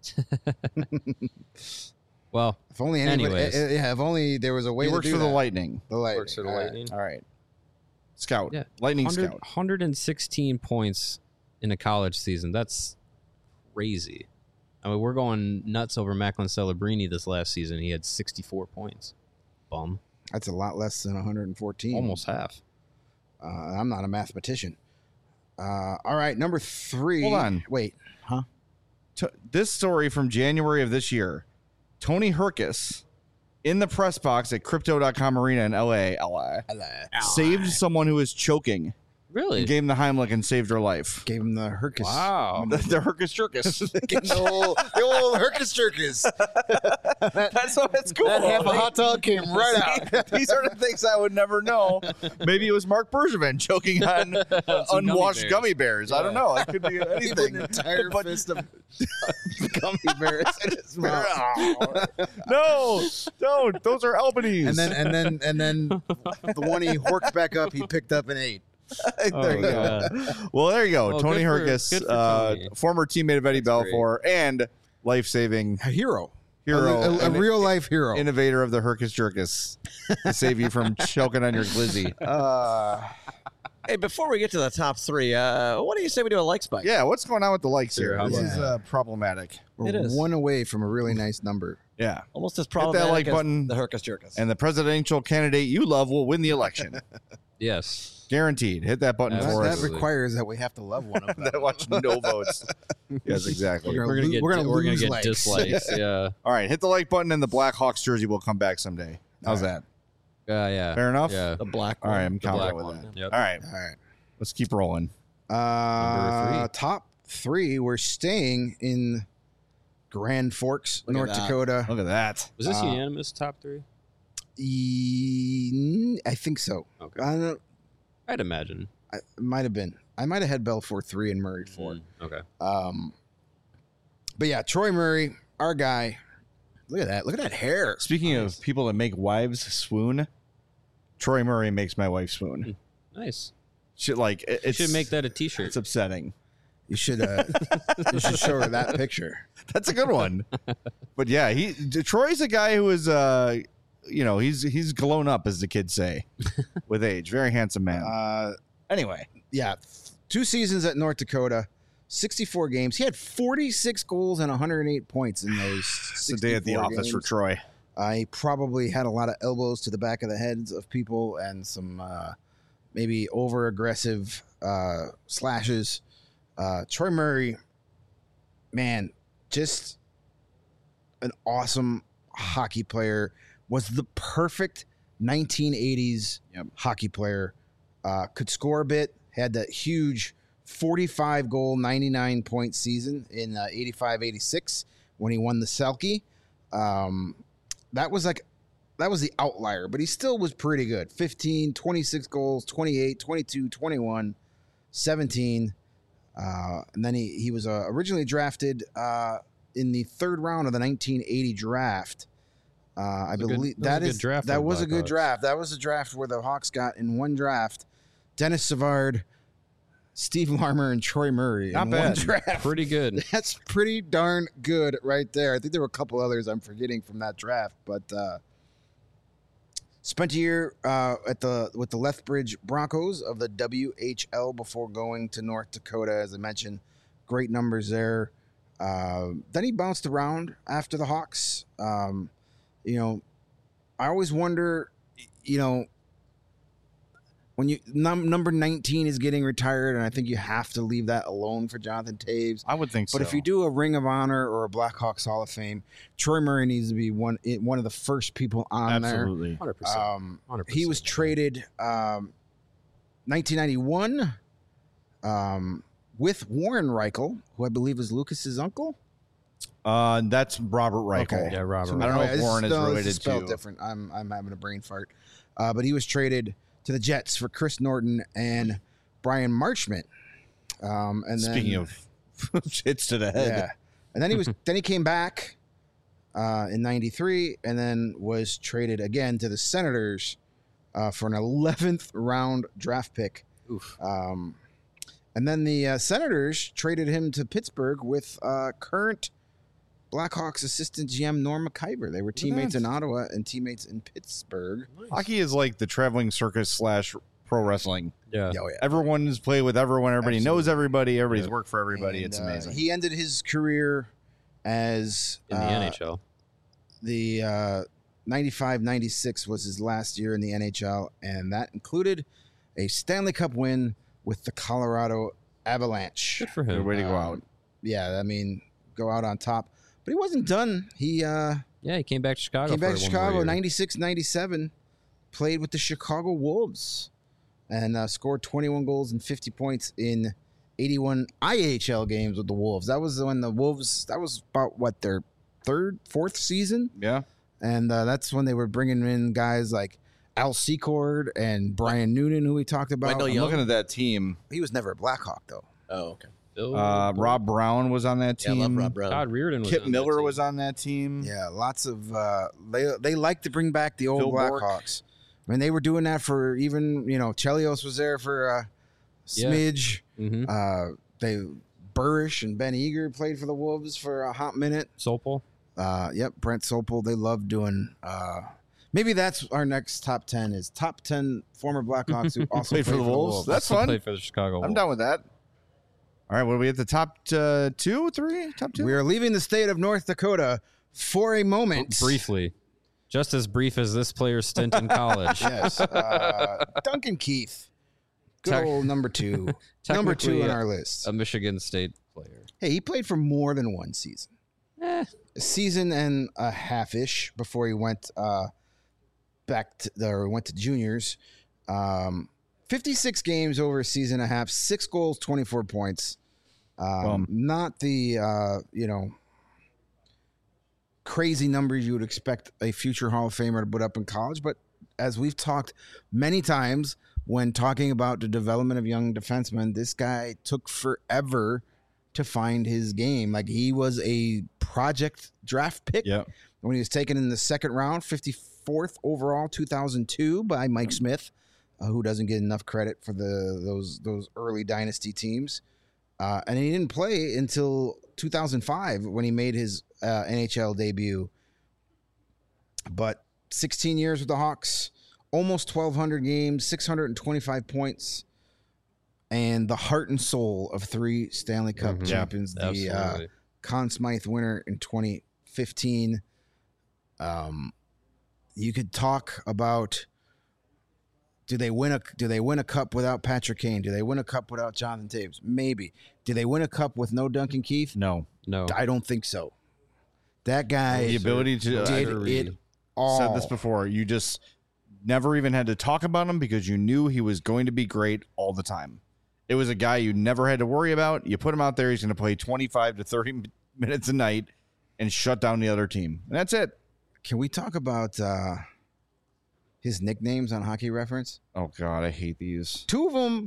Well, If only anybody, Anyways. if only there was a way He to works do for the that. Lightning. The Lightning. works for the All right. Lightning. All right. Scout. Yeah. Lightning 100 scout. 116 points in a college season. That's crazy. I mean, we're going nuts over Macklin Celebrini this last season. He had 64 points. Bum. That's a lot less than 114. Almost half. I'm not a mathematician. All right, number 3. Hold on. Wait. Huh? This story from January of this year. Tony Herkus in the press box at Crypto.com Arena in LA, saved someone who was choking Really? and gave him the Heimlich and saved her life. Gave him the Herkus. Wow. The Herkus Jerkus. Gave him the old Herkus Jerkus. That's what it's cool. That half a hot dog came right out. These are the things I would never know. Maybe it was Mark Bergevin choking on unwashed gummy bears. I don't know. It could be anything. An entire But- fist of gummy bears in his mouth. No, don't. Those are Albanese. And then the one he horked back up, he picked up and ate. there you go. God. Well, there you go. Well, Tony good for Herkus, Tony. former teammate of Eddie That's Belfour and life-saving A hero. hero, A and real life hero. innovator of the Herkus Jerkus to save you from choking on your glizzy. Hey, before we get to the top 3, what do you say we do a like spike? Yeah, what's going on with the likes Sure, here? how This about is that? problematic. We're It is. one away from a really nice number. Yeah. Almost as that problematic like as button. the Herkus Jerkus. And the presidential candidate you love will win the election. Yes. Guaranteed. Hit that button That- for That us. requires that we have to love one of them. That watch no votes. Yes, exactly. We're We're gonna get we're gonna lose get likes. dislikes. Yeah. All right, hit the like button and the Blackhawks jersey will come back someday. How's that? Yeah. Fair enough? Yeah. the black All one. right, I'm The black confident with one. that. Yep. All right, All right. let's keep rolling. Number 3. Top 3. We're staying in Grand Forks, Look at North that. Dakota. Look at that. Was this unanimous top 3? I think so. Okay. I don't. I'd imagine. It might have been. I might have had Belfour 3 and Murray 4. Okay. But yeah, Troy Murray, our guy. Look at that. Look at that hair. Speaking of people that make wives swoon, Troy Murray makes my wife swoon. Nice. Shit, like You it's should make that a T-shirt. It's upsetting. You should show her that picture. That's a good one. But yeah, Troy's a guy who is he's grown up, as the kids say, with age. Very handsome man. Anyway, Yeah, 2 seasons at North Dakota, 64 games. He had 46 goals and 108 points in those. it's a day at the 64 office for games. Troy. He probably had a lot of elbows to the back of the heads of people and some maybe over aggressive slashes. Troy Murray, man, just an awesome hockey player. was the perfect 1980s hockey player. Could score a bit, had that huge 45-goal, 99-point season in 85-86 when he won the Selke. That was the outlier, but he still was pretty good. 15, 26 goals, 28, 22, 21, 17. And then he was originally drafted in the third round of the 1980 draft. I believe that was a good draft. That was a draft where the Hawks got in one draft Dennis Savard, Steve Larmer, and Troy Murray. Not in bad. One draft. Pretty good. That's pretty darn good right there. I think there were a couple others I'm forgetting from that draft, but spent a year with the Lethbridge Broncos of the WHL before going to North Dakota. As I mentioned, great numbers there. Then he bounced around after the Hawks. I always wonder, when you number 19 is getting retired, and I think you have to leave that alone for Jonathan Toews. I would think so. But if you do a Ring of Honor or a Blackhawks Hall of Fame, Troy Murray needs to be one of the first people on absolutely. 100%. 100%. He was traded 1991 with Warren Reichel, who I believe is Lucas's uncle. That's Robert Reichel. Okay. Yeah, Robert. I don't know if Warren is this related spelled to. different. I'm having a brain fart. But he was traded to the Jets for Chris Norton and Brian Marchment. And Speaking of hits to the head, yeah, and then he came back in '93, and then was traded again to the Senators for an 11th round draft pick. Oof. And then the Senators traded him to Pittsburgh with current Blackhawks assistant GM Norm McIver. They were teammates in Ottawa and teammates in Pittsburgh. hockey is like the traveling circus / pro wrestling. Yeah. Oh, yeah. Everyone's played with everyone. Everybody knows everybody. Everybody's Yeah. worked for everybody. And, It's amazing. He ended his career as In the NHL. The 95-96 was his last year in the NHL, and that included a Stanley Cup win with the Colorado Avalanche. Good for Good him. way to go out. Yeah, I mean, go out on top. But he wasn't done. He Yeah, he came back to Chicago. came back for to one more Chicago, year. 96-97, played with the Chicago Wolves, and scored 21 goals and 50 points in 81 IHL games with the Wolves. That was when the Wolves, that was about, what, their fourth season? Yeah. And that's when they were bringing in guys like Al Secord and Brian Noonan, who we talked about. Wendell I'm Young? looking at that team. He was never a Blackhawk, though. Oh, okay. Bill- Rob Brown was on that Yeah, I team. love Rob Brown. Todd Reardon was Kip on that Miller team. was on that team. Yeah, lots of they like to bring back the old Phil Bourque. Blackhawks. I mean, they were doing that for even Chelios was there for a smidge. Mhm. They Burrish and Ben Eager played for the Wolves for a hot minute. Sopel. Yep, Brent Sopel. They love doing. Maybe that's our next top 10 is top 10 former Blackhawks who also Played for the Wolves. That's Also fun. played for the Chicago I'm Wolves. down with that. All right, what are we at the top 2, 3? Top 2? We are leaving the state of North Dakota for a moment. Briefly. Just as brief as this player's stint in college. Yes. Duncan Keith. Good Tech- old number 2. Number 2 Technically, on our list. A Michigan State player. Hey, he played for more than one season. A season and a half-ish before he went went to juniors. 56 games over a season and a half, 6 goals, 24 points. Not the crazy numbers you would expect a future Hall of Famer to put up in college, but as we've talked many times when talking about the development of young defensemen, this guy took forever to find his game. Like, he was a project draft pick. Yeah. When he was taken in the second round, 54th overall, 2002 by Mike Smith, who doesn't get enough credit for those early dynasty teams. And he didn't play until 2005 when he made his NHL debut. But 16 years with the Hawks, almost 1,200 games, 625 points, and the heart and soul of 3 Stanley Cup champions. The Absolutely. Conn Smythe winner in 2015. You could talk about, do they win a cup without Patrick Kane? Do they win a cup without Jonathan Toews? Maybe. Do they win a cup with no Duncan Keith? No. No. I don't think so. That guy The ability to did Sure it read. said this before. You just never even had to talk about him because you knew he was going to be great all the time. It was a guy you never had to worry about. You put him out there, he's going to play 25 to 30 minutes a night and shut down the other team. And that's it. Can we talk about his nicknames on Hockey Reference? Oh, God, I hate these. 2 of them,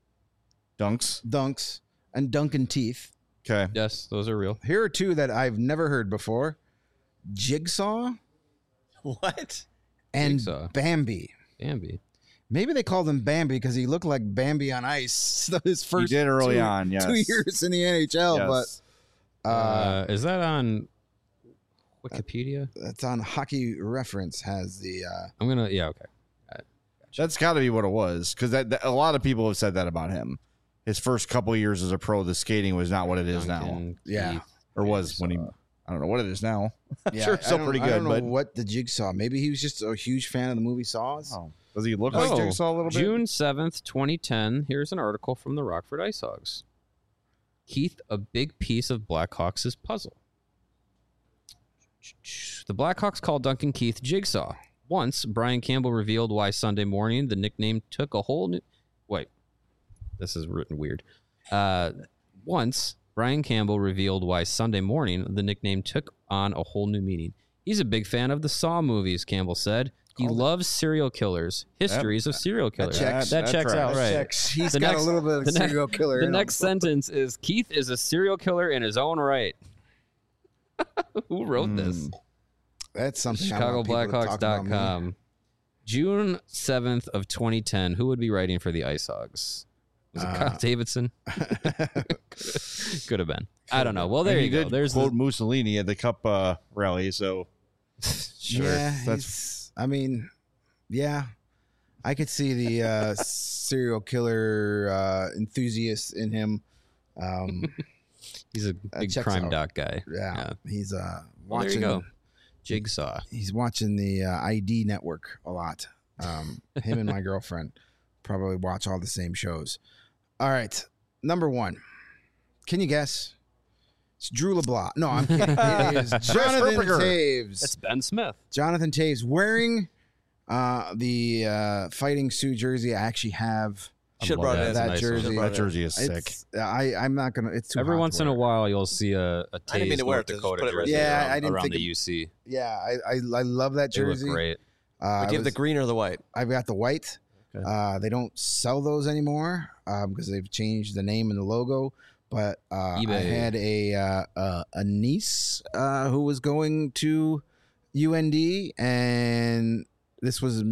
Dunks. and Duncan Teeth. Okay. Yes, those are real. Here are 2 that I've never heard before. Jigsaw What? and Jigsaw. Bambi. Bambi. Maybe they called him Bambi because he looked like Bambi on ice his He first did early on, yes. 2 years in the NHL. Yes. But Is that on Wikipedia? that's on Hockey Reference. Has the I'm gonna. Yeah. Okay. That's got to be what it was because that a lot of people have said that about him. His first couple of years as a pro, the skating was not what it is now, Duncan Yeah. Keith or was when he. I don't know what it is now. yeah, Sure, it's still pretty I don't good, know but what the Jigsaw. Maybe he was just a huge fan of the movie Saws. oh, does he look like Jigsaw a little bit? June 7th, 2010. Here's an article from the Rockford Ice Hogs. Keith, a big piece of Blackhawks' puzzle. The Blackhawks called Duncan Keith Jigsaw. Once, Brian Campbell revealed why Sunday morning the nickname took a whole new... Wait. This is written weird. Once, Brian Campbell revealed why Sunday morning the nickname took on a whole new meaning. He's a big fan of the Saw movies, Campbell said. He loves serial killers, histories of serial killers. That checks out, right? He's The got next- a little bit of the ne- serial killer. The in him. next sentence is Keith is a serial killer in his own right. Who wrote this? That's something. I want people to talk about more. ChicagoBlackhawks.com. June 7th of 2010. Who would be writing for the Ice Hogs? Was it Kyle Davidson? Could have been. I don't know. Well, there And you he go. did There's quote the, Mussolini at the Cup rally, so sure. Yeah, That's- I mean, yeah, I could see the serial killer enthusiast in him. He's a big checks crime out. doc guy. Yeah, he's Well, watching. there you go. Jigsaw. He's watching the ID Network a lot. Him and my girlfriend probably watch all the same shows. All right, number 1. Can you guess? It's Drew LeBlanc. No, I'm kidding. It is Jonathan Rupperger. Taves. It's Ben Smith. Jonathan Taves wearing the Fighting Sioux jersey. I actually have Should love brought that. it It's a that nice one. jersey. that jersey is sick. It's, I'm not gonna. It's too Every hot once to in a wear. while, you'll see a I didn't mean Taves to wear North it, just Dakota put it right jersey there. Yeah, around, I didn't around think the it- UC. Yeah, I love that They look jersey. great. Do you have the green or the white? I've got the white. Okay. They don't sell those anymore because they've changed the name and the logo. But I eBay. had a niece who was going to UND, and this was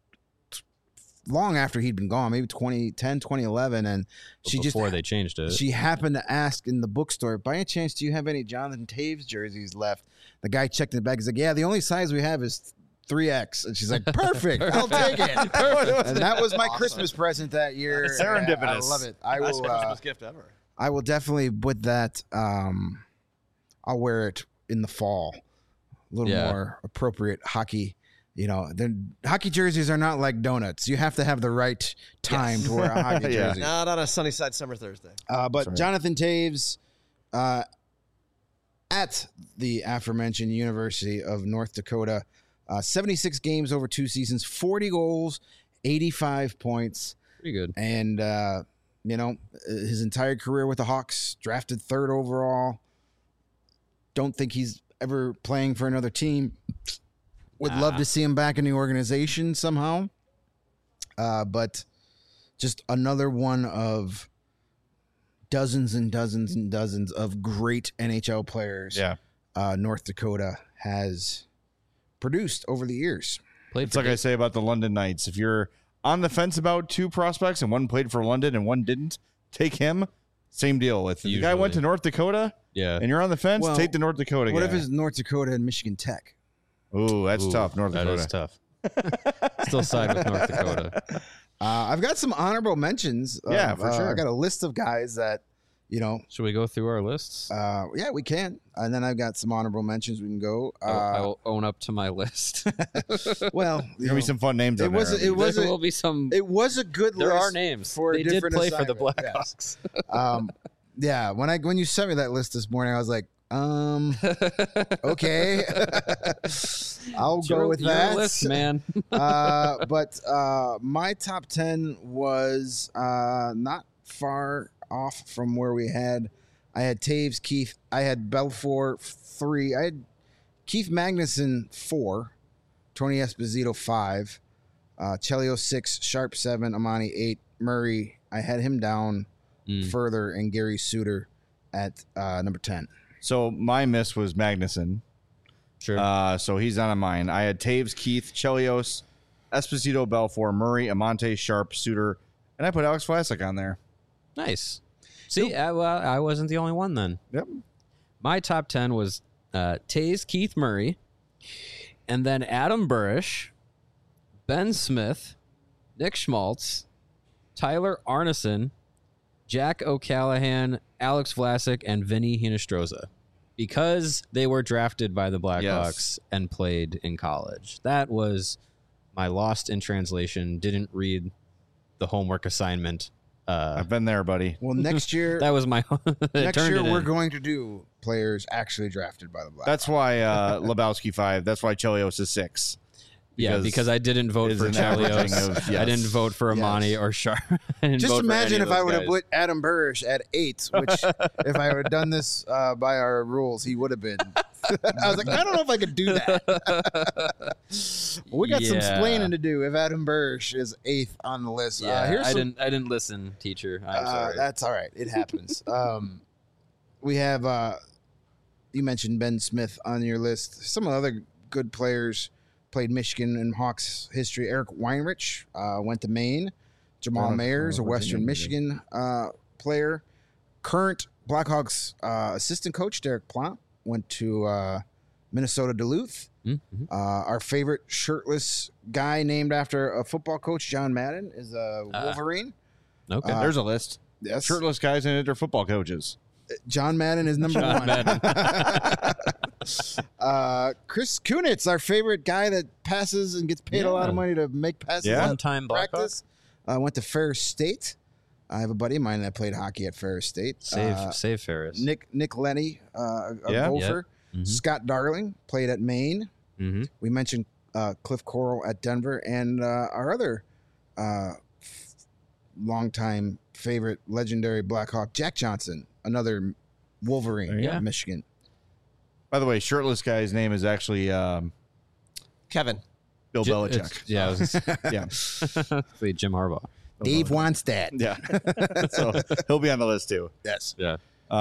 long after he'd been gone, maybe 2010, 2011, and she just Before they changed it. she happened to ask in the bookstore, by any chance, do you have any Jonathan Taves jerseys left? The guy checked in the bag. He's like, yeah, the only size we have is 3X. And she's like, perfect. I'll take it. And that was my Christmas present that year. Serendipitous. I love it. I Best will. Christmas gift ever. I will definitely put that. I'll wear it in the fall. A little Yeah. more appropriate hockey. You know, hockey jerseys are not like donuts. You have to have the right time to wear a hockey Yeah. jersey. Not on a sunny side summer Thursday. But right. Jonathan Taves, at the aforementioned University of North Dakota, 76 games over 2 seasons, 40 goals, 85 points, Pretty good. and his entire career with the Hawks, drafted 3rd overall. Don't think he's ever playing for another team. Would love to see him back in the organization somehow. But just another one of dozens and dozens and dozens of great NHL players Yeah. North Dakota has produced over the years. Played It's for like I say about the London Knights. If you're on the fence about 2 prospects and one played for London and one didn't, take him. Same deal. If the guy went to Usually. North Dakota Yeah. and you're on the fence, Well, take the North Dakota What guy. if it's North Dakota and Michigan Tech? Ooh, that's Ooh, tough. North that Dakota. is tough. Still side with North Dakota. I've got some honorable mentions. Yeah, for sure. I got a list of guys that, Should we go through our lists? yeah, we can. And then I've got some honorable mentions. We can go. I will own up to my list. Well, There's gonna be some fun names. it on was there. it was there a, will be some. it was a good There list are names. for a They did different play for the assignment, yes. Blackhawks. Yeah, when you sent me that list this morning, I was like, Okay. I'll It's go with your that. list, man. But my top 10 was not far off from where we had. I had Taves, Keith. I had Belfour 3. I had Keith Magnuson 4, Tony Esposito 5, Chelio 6, Sharp 7, Amani 8, Murray. I had him down further, and Gary Suter at number 10. So my miss was Magnuson. Sure. So he's not on mine. I had Taves, Keith, Chelios, Esposito, Belfour, Murray, Amante, Sharp, Suter, and I put Alex Vlasic on there. Nice. See, I wasn't the only one then. Yep. My top 10 was Taze, Keith Murray, and then Adam Burrish, Ben Smith, Nick Schmaltz, Tyler Arneson, Jack O'Callahan, Alex Vlasic, and Vinny Hinostroza, because they were drafted by the Blackhawks and played in college. That was my lost in translation, didn't read the homework assignment. I've been there, buddy. Well, next year, That was my next year we're going to do players actually drafted by the Blackhawks. That's why Lebowski 5. That's why Chelios is 6. Because I didn't vote is for an averaging Chelios. of- yes. I didn't vote for Amani or Sharp. Just imagine if I would have put Adam Burrish at 8, which if I would have done this by our rules, he would have been. I was like, I don't know if I could do that. We got some explaining to do if Adam Burrish is 8th on the list. Yeah, I some, didn't listen, teacher. I'm sorry. That's all right. It happens. We have, you mentioned Ben Smith on your list. Some other good players played Michigan in Hawks history. Eric Weinrich went to Maine. Jamal Mayers, a Western Michigan player. Current Blackhawks assistant coach Derek Plant went to Minnesota Duluth. Mm-hmm. Our favorite shirtless guy named after a football coach, John Madden, is a Wolverine. Okay. There's a list. Yes. Shirtless guys in it are football coaches. John Madden is number John one. Madden. Chris Kunitz, our favorite guy that passes and gets paid a lot of money to make passes Yeah. on One-time Blackhawk. practice. Went to Ferris State. I have a buddy of mine that played hockey at Ferris State. Save Ferris. Nick Lenny, a Yeah. Gopher. Mhm. Scott Darling played at Maine. Mm-hmm. We mentioned Cliff Coral at Denver, and our other longtime favorite, legendary Blackhawk, Jack Johnson, another Wolverine, Yeah. Michigan. By the way, shirtless guy's name is actually Kevin. Bill Belichick. Yeah, I was Yeah. Wait, Jim Harbaugh. Dave Wannstedt. Yeah. So he'll be on the list too. Yes. Yeah.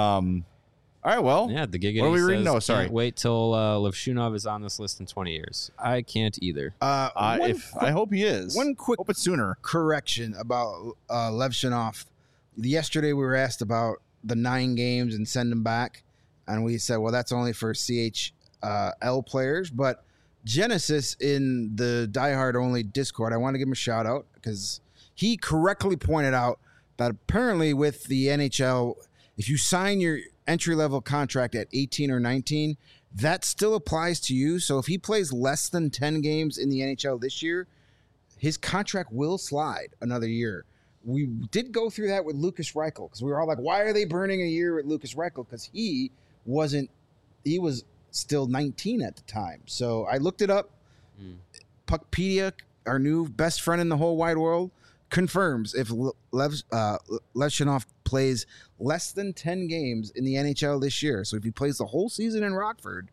All right. Well, Yeah, the Giggity What are we reading? says, No, sorry. "Can't wait till Levshunov is on this list in 20 years. I can't either. One I hope he is. one quick Hope it's sooner. correction about Levshunov. Yesterday we were asked about the 9 games and send them back, and we said, well, that's only for CHL players. But Genesis in the Die Hard Only Discord, I want to give him a shout out because he correctly pointed out that apparently with the NHL, if you sign your entry-level contract at 18 or 19, that still applies to you. So if he plays less than 10 games in the NHL this year, his contract will slide another year. We did go through that with Lucas Reichel because we were all like, why are they burning a year with Lucas Reichel? Because he was still 19 at the time. So I looked it up. Puckpedia, our new best friend in the whole wide world, confirms if Levshunov plays less than 10 games in the NHL this year. So if he plays the whole season in Rockford,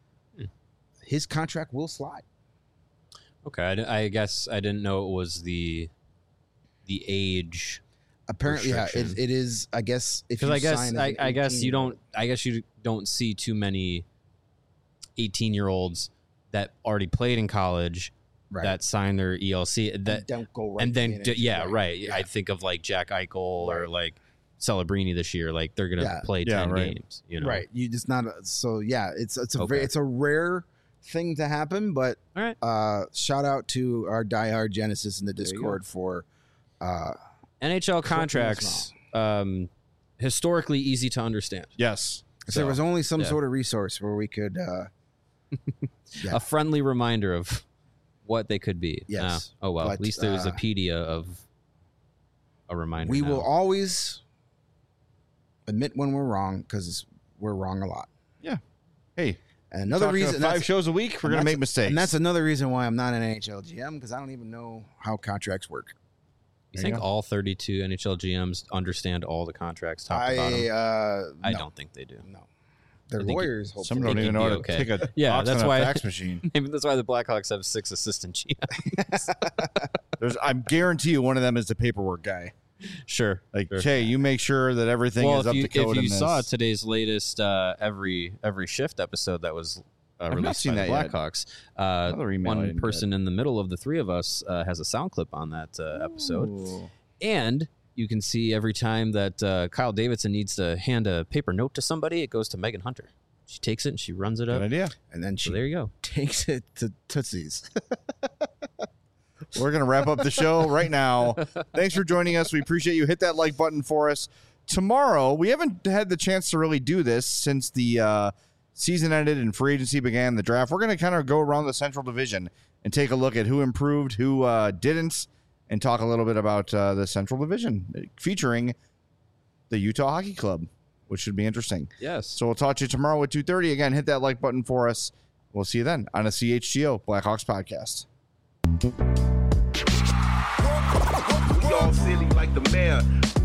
his contract will slide. Okay, I guess I didn't know it was the age. Apparently, yeah, restriction. it is. I guess if Because you I sign guess as an I guess 18 you don't. I guess you don't see too many 18-year-olds that already played in college right. that signed their ELC. That don't go right. and to then the NHL. right. Yeah. I think of like Jack Eichel or like Celebrini this year. Like they're gonna play 10 right. games. You know, Right. You just not. So yeah, it's a Okay. it's a rare thing to happen. But All right. shout out to our diehard Genesis in the you go. Discord for NHL contracts. Historically easy to understand. Yes. if there was only some yeah. sort of resource where we could. Yeah. A friendly reminder of what they could be. Yes. Oh well. But, At least there's a pedia of a reminder. We now. will always admit when we're wrong because we're wrong a lot. Hey, And another talking reason, 5 shows a week, we're going to make mistakes. and that's another reason why I'm not an NHL GM, because I don't even know how contracts work. You There think you go. all 32 NHL GMs understand all the contracts top to bottom? I no, don't think they do. no. They're I think lawyers. Some Hopefully. don't even you'd know be how to okay. take a Yeah, box that's on a why- fax machine. Maybe that's why the Blackhawks have 6 assistant GMs. I guarantee you one of them is the paperwork guy. Sure. Like, Sure. hey, you make sure that everything Well, is up to code if you in saw this. today's latest every shift episode that was not released seen by the that yet. Blackhawks, Another email I one didn't person in the middle of the three of us has a sound clip on that episode, Ooh. and you can see every time that Kyle Davidson needs to hand a paper note to somebody, it goes to Megan Hunter. She takes it and she runs it Good up. idea. And then she So there you go. takes it to Tootsie's. We're going to wrap up the show right now. Thanks for joining us. We appreciate you. Hit that like button for us. Tomorrow, we haven't had the chance to really do this since the season ended and free agency began, the draft. We're going to kind of go around the Central Division and take a look at who improved, who didn't, and talk a little bit about the Central Division featuring the Utah Hockey Club, which should be interesting. Yes. So we'll talk to you tomorrow at 2:30. Again, hit that like button for us. We'll see you then on a CHGO Blackhawks podcast. We all silly like the mayor.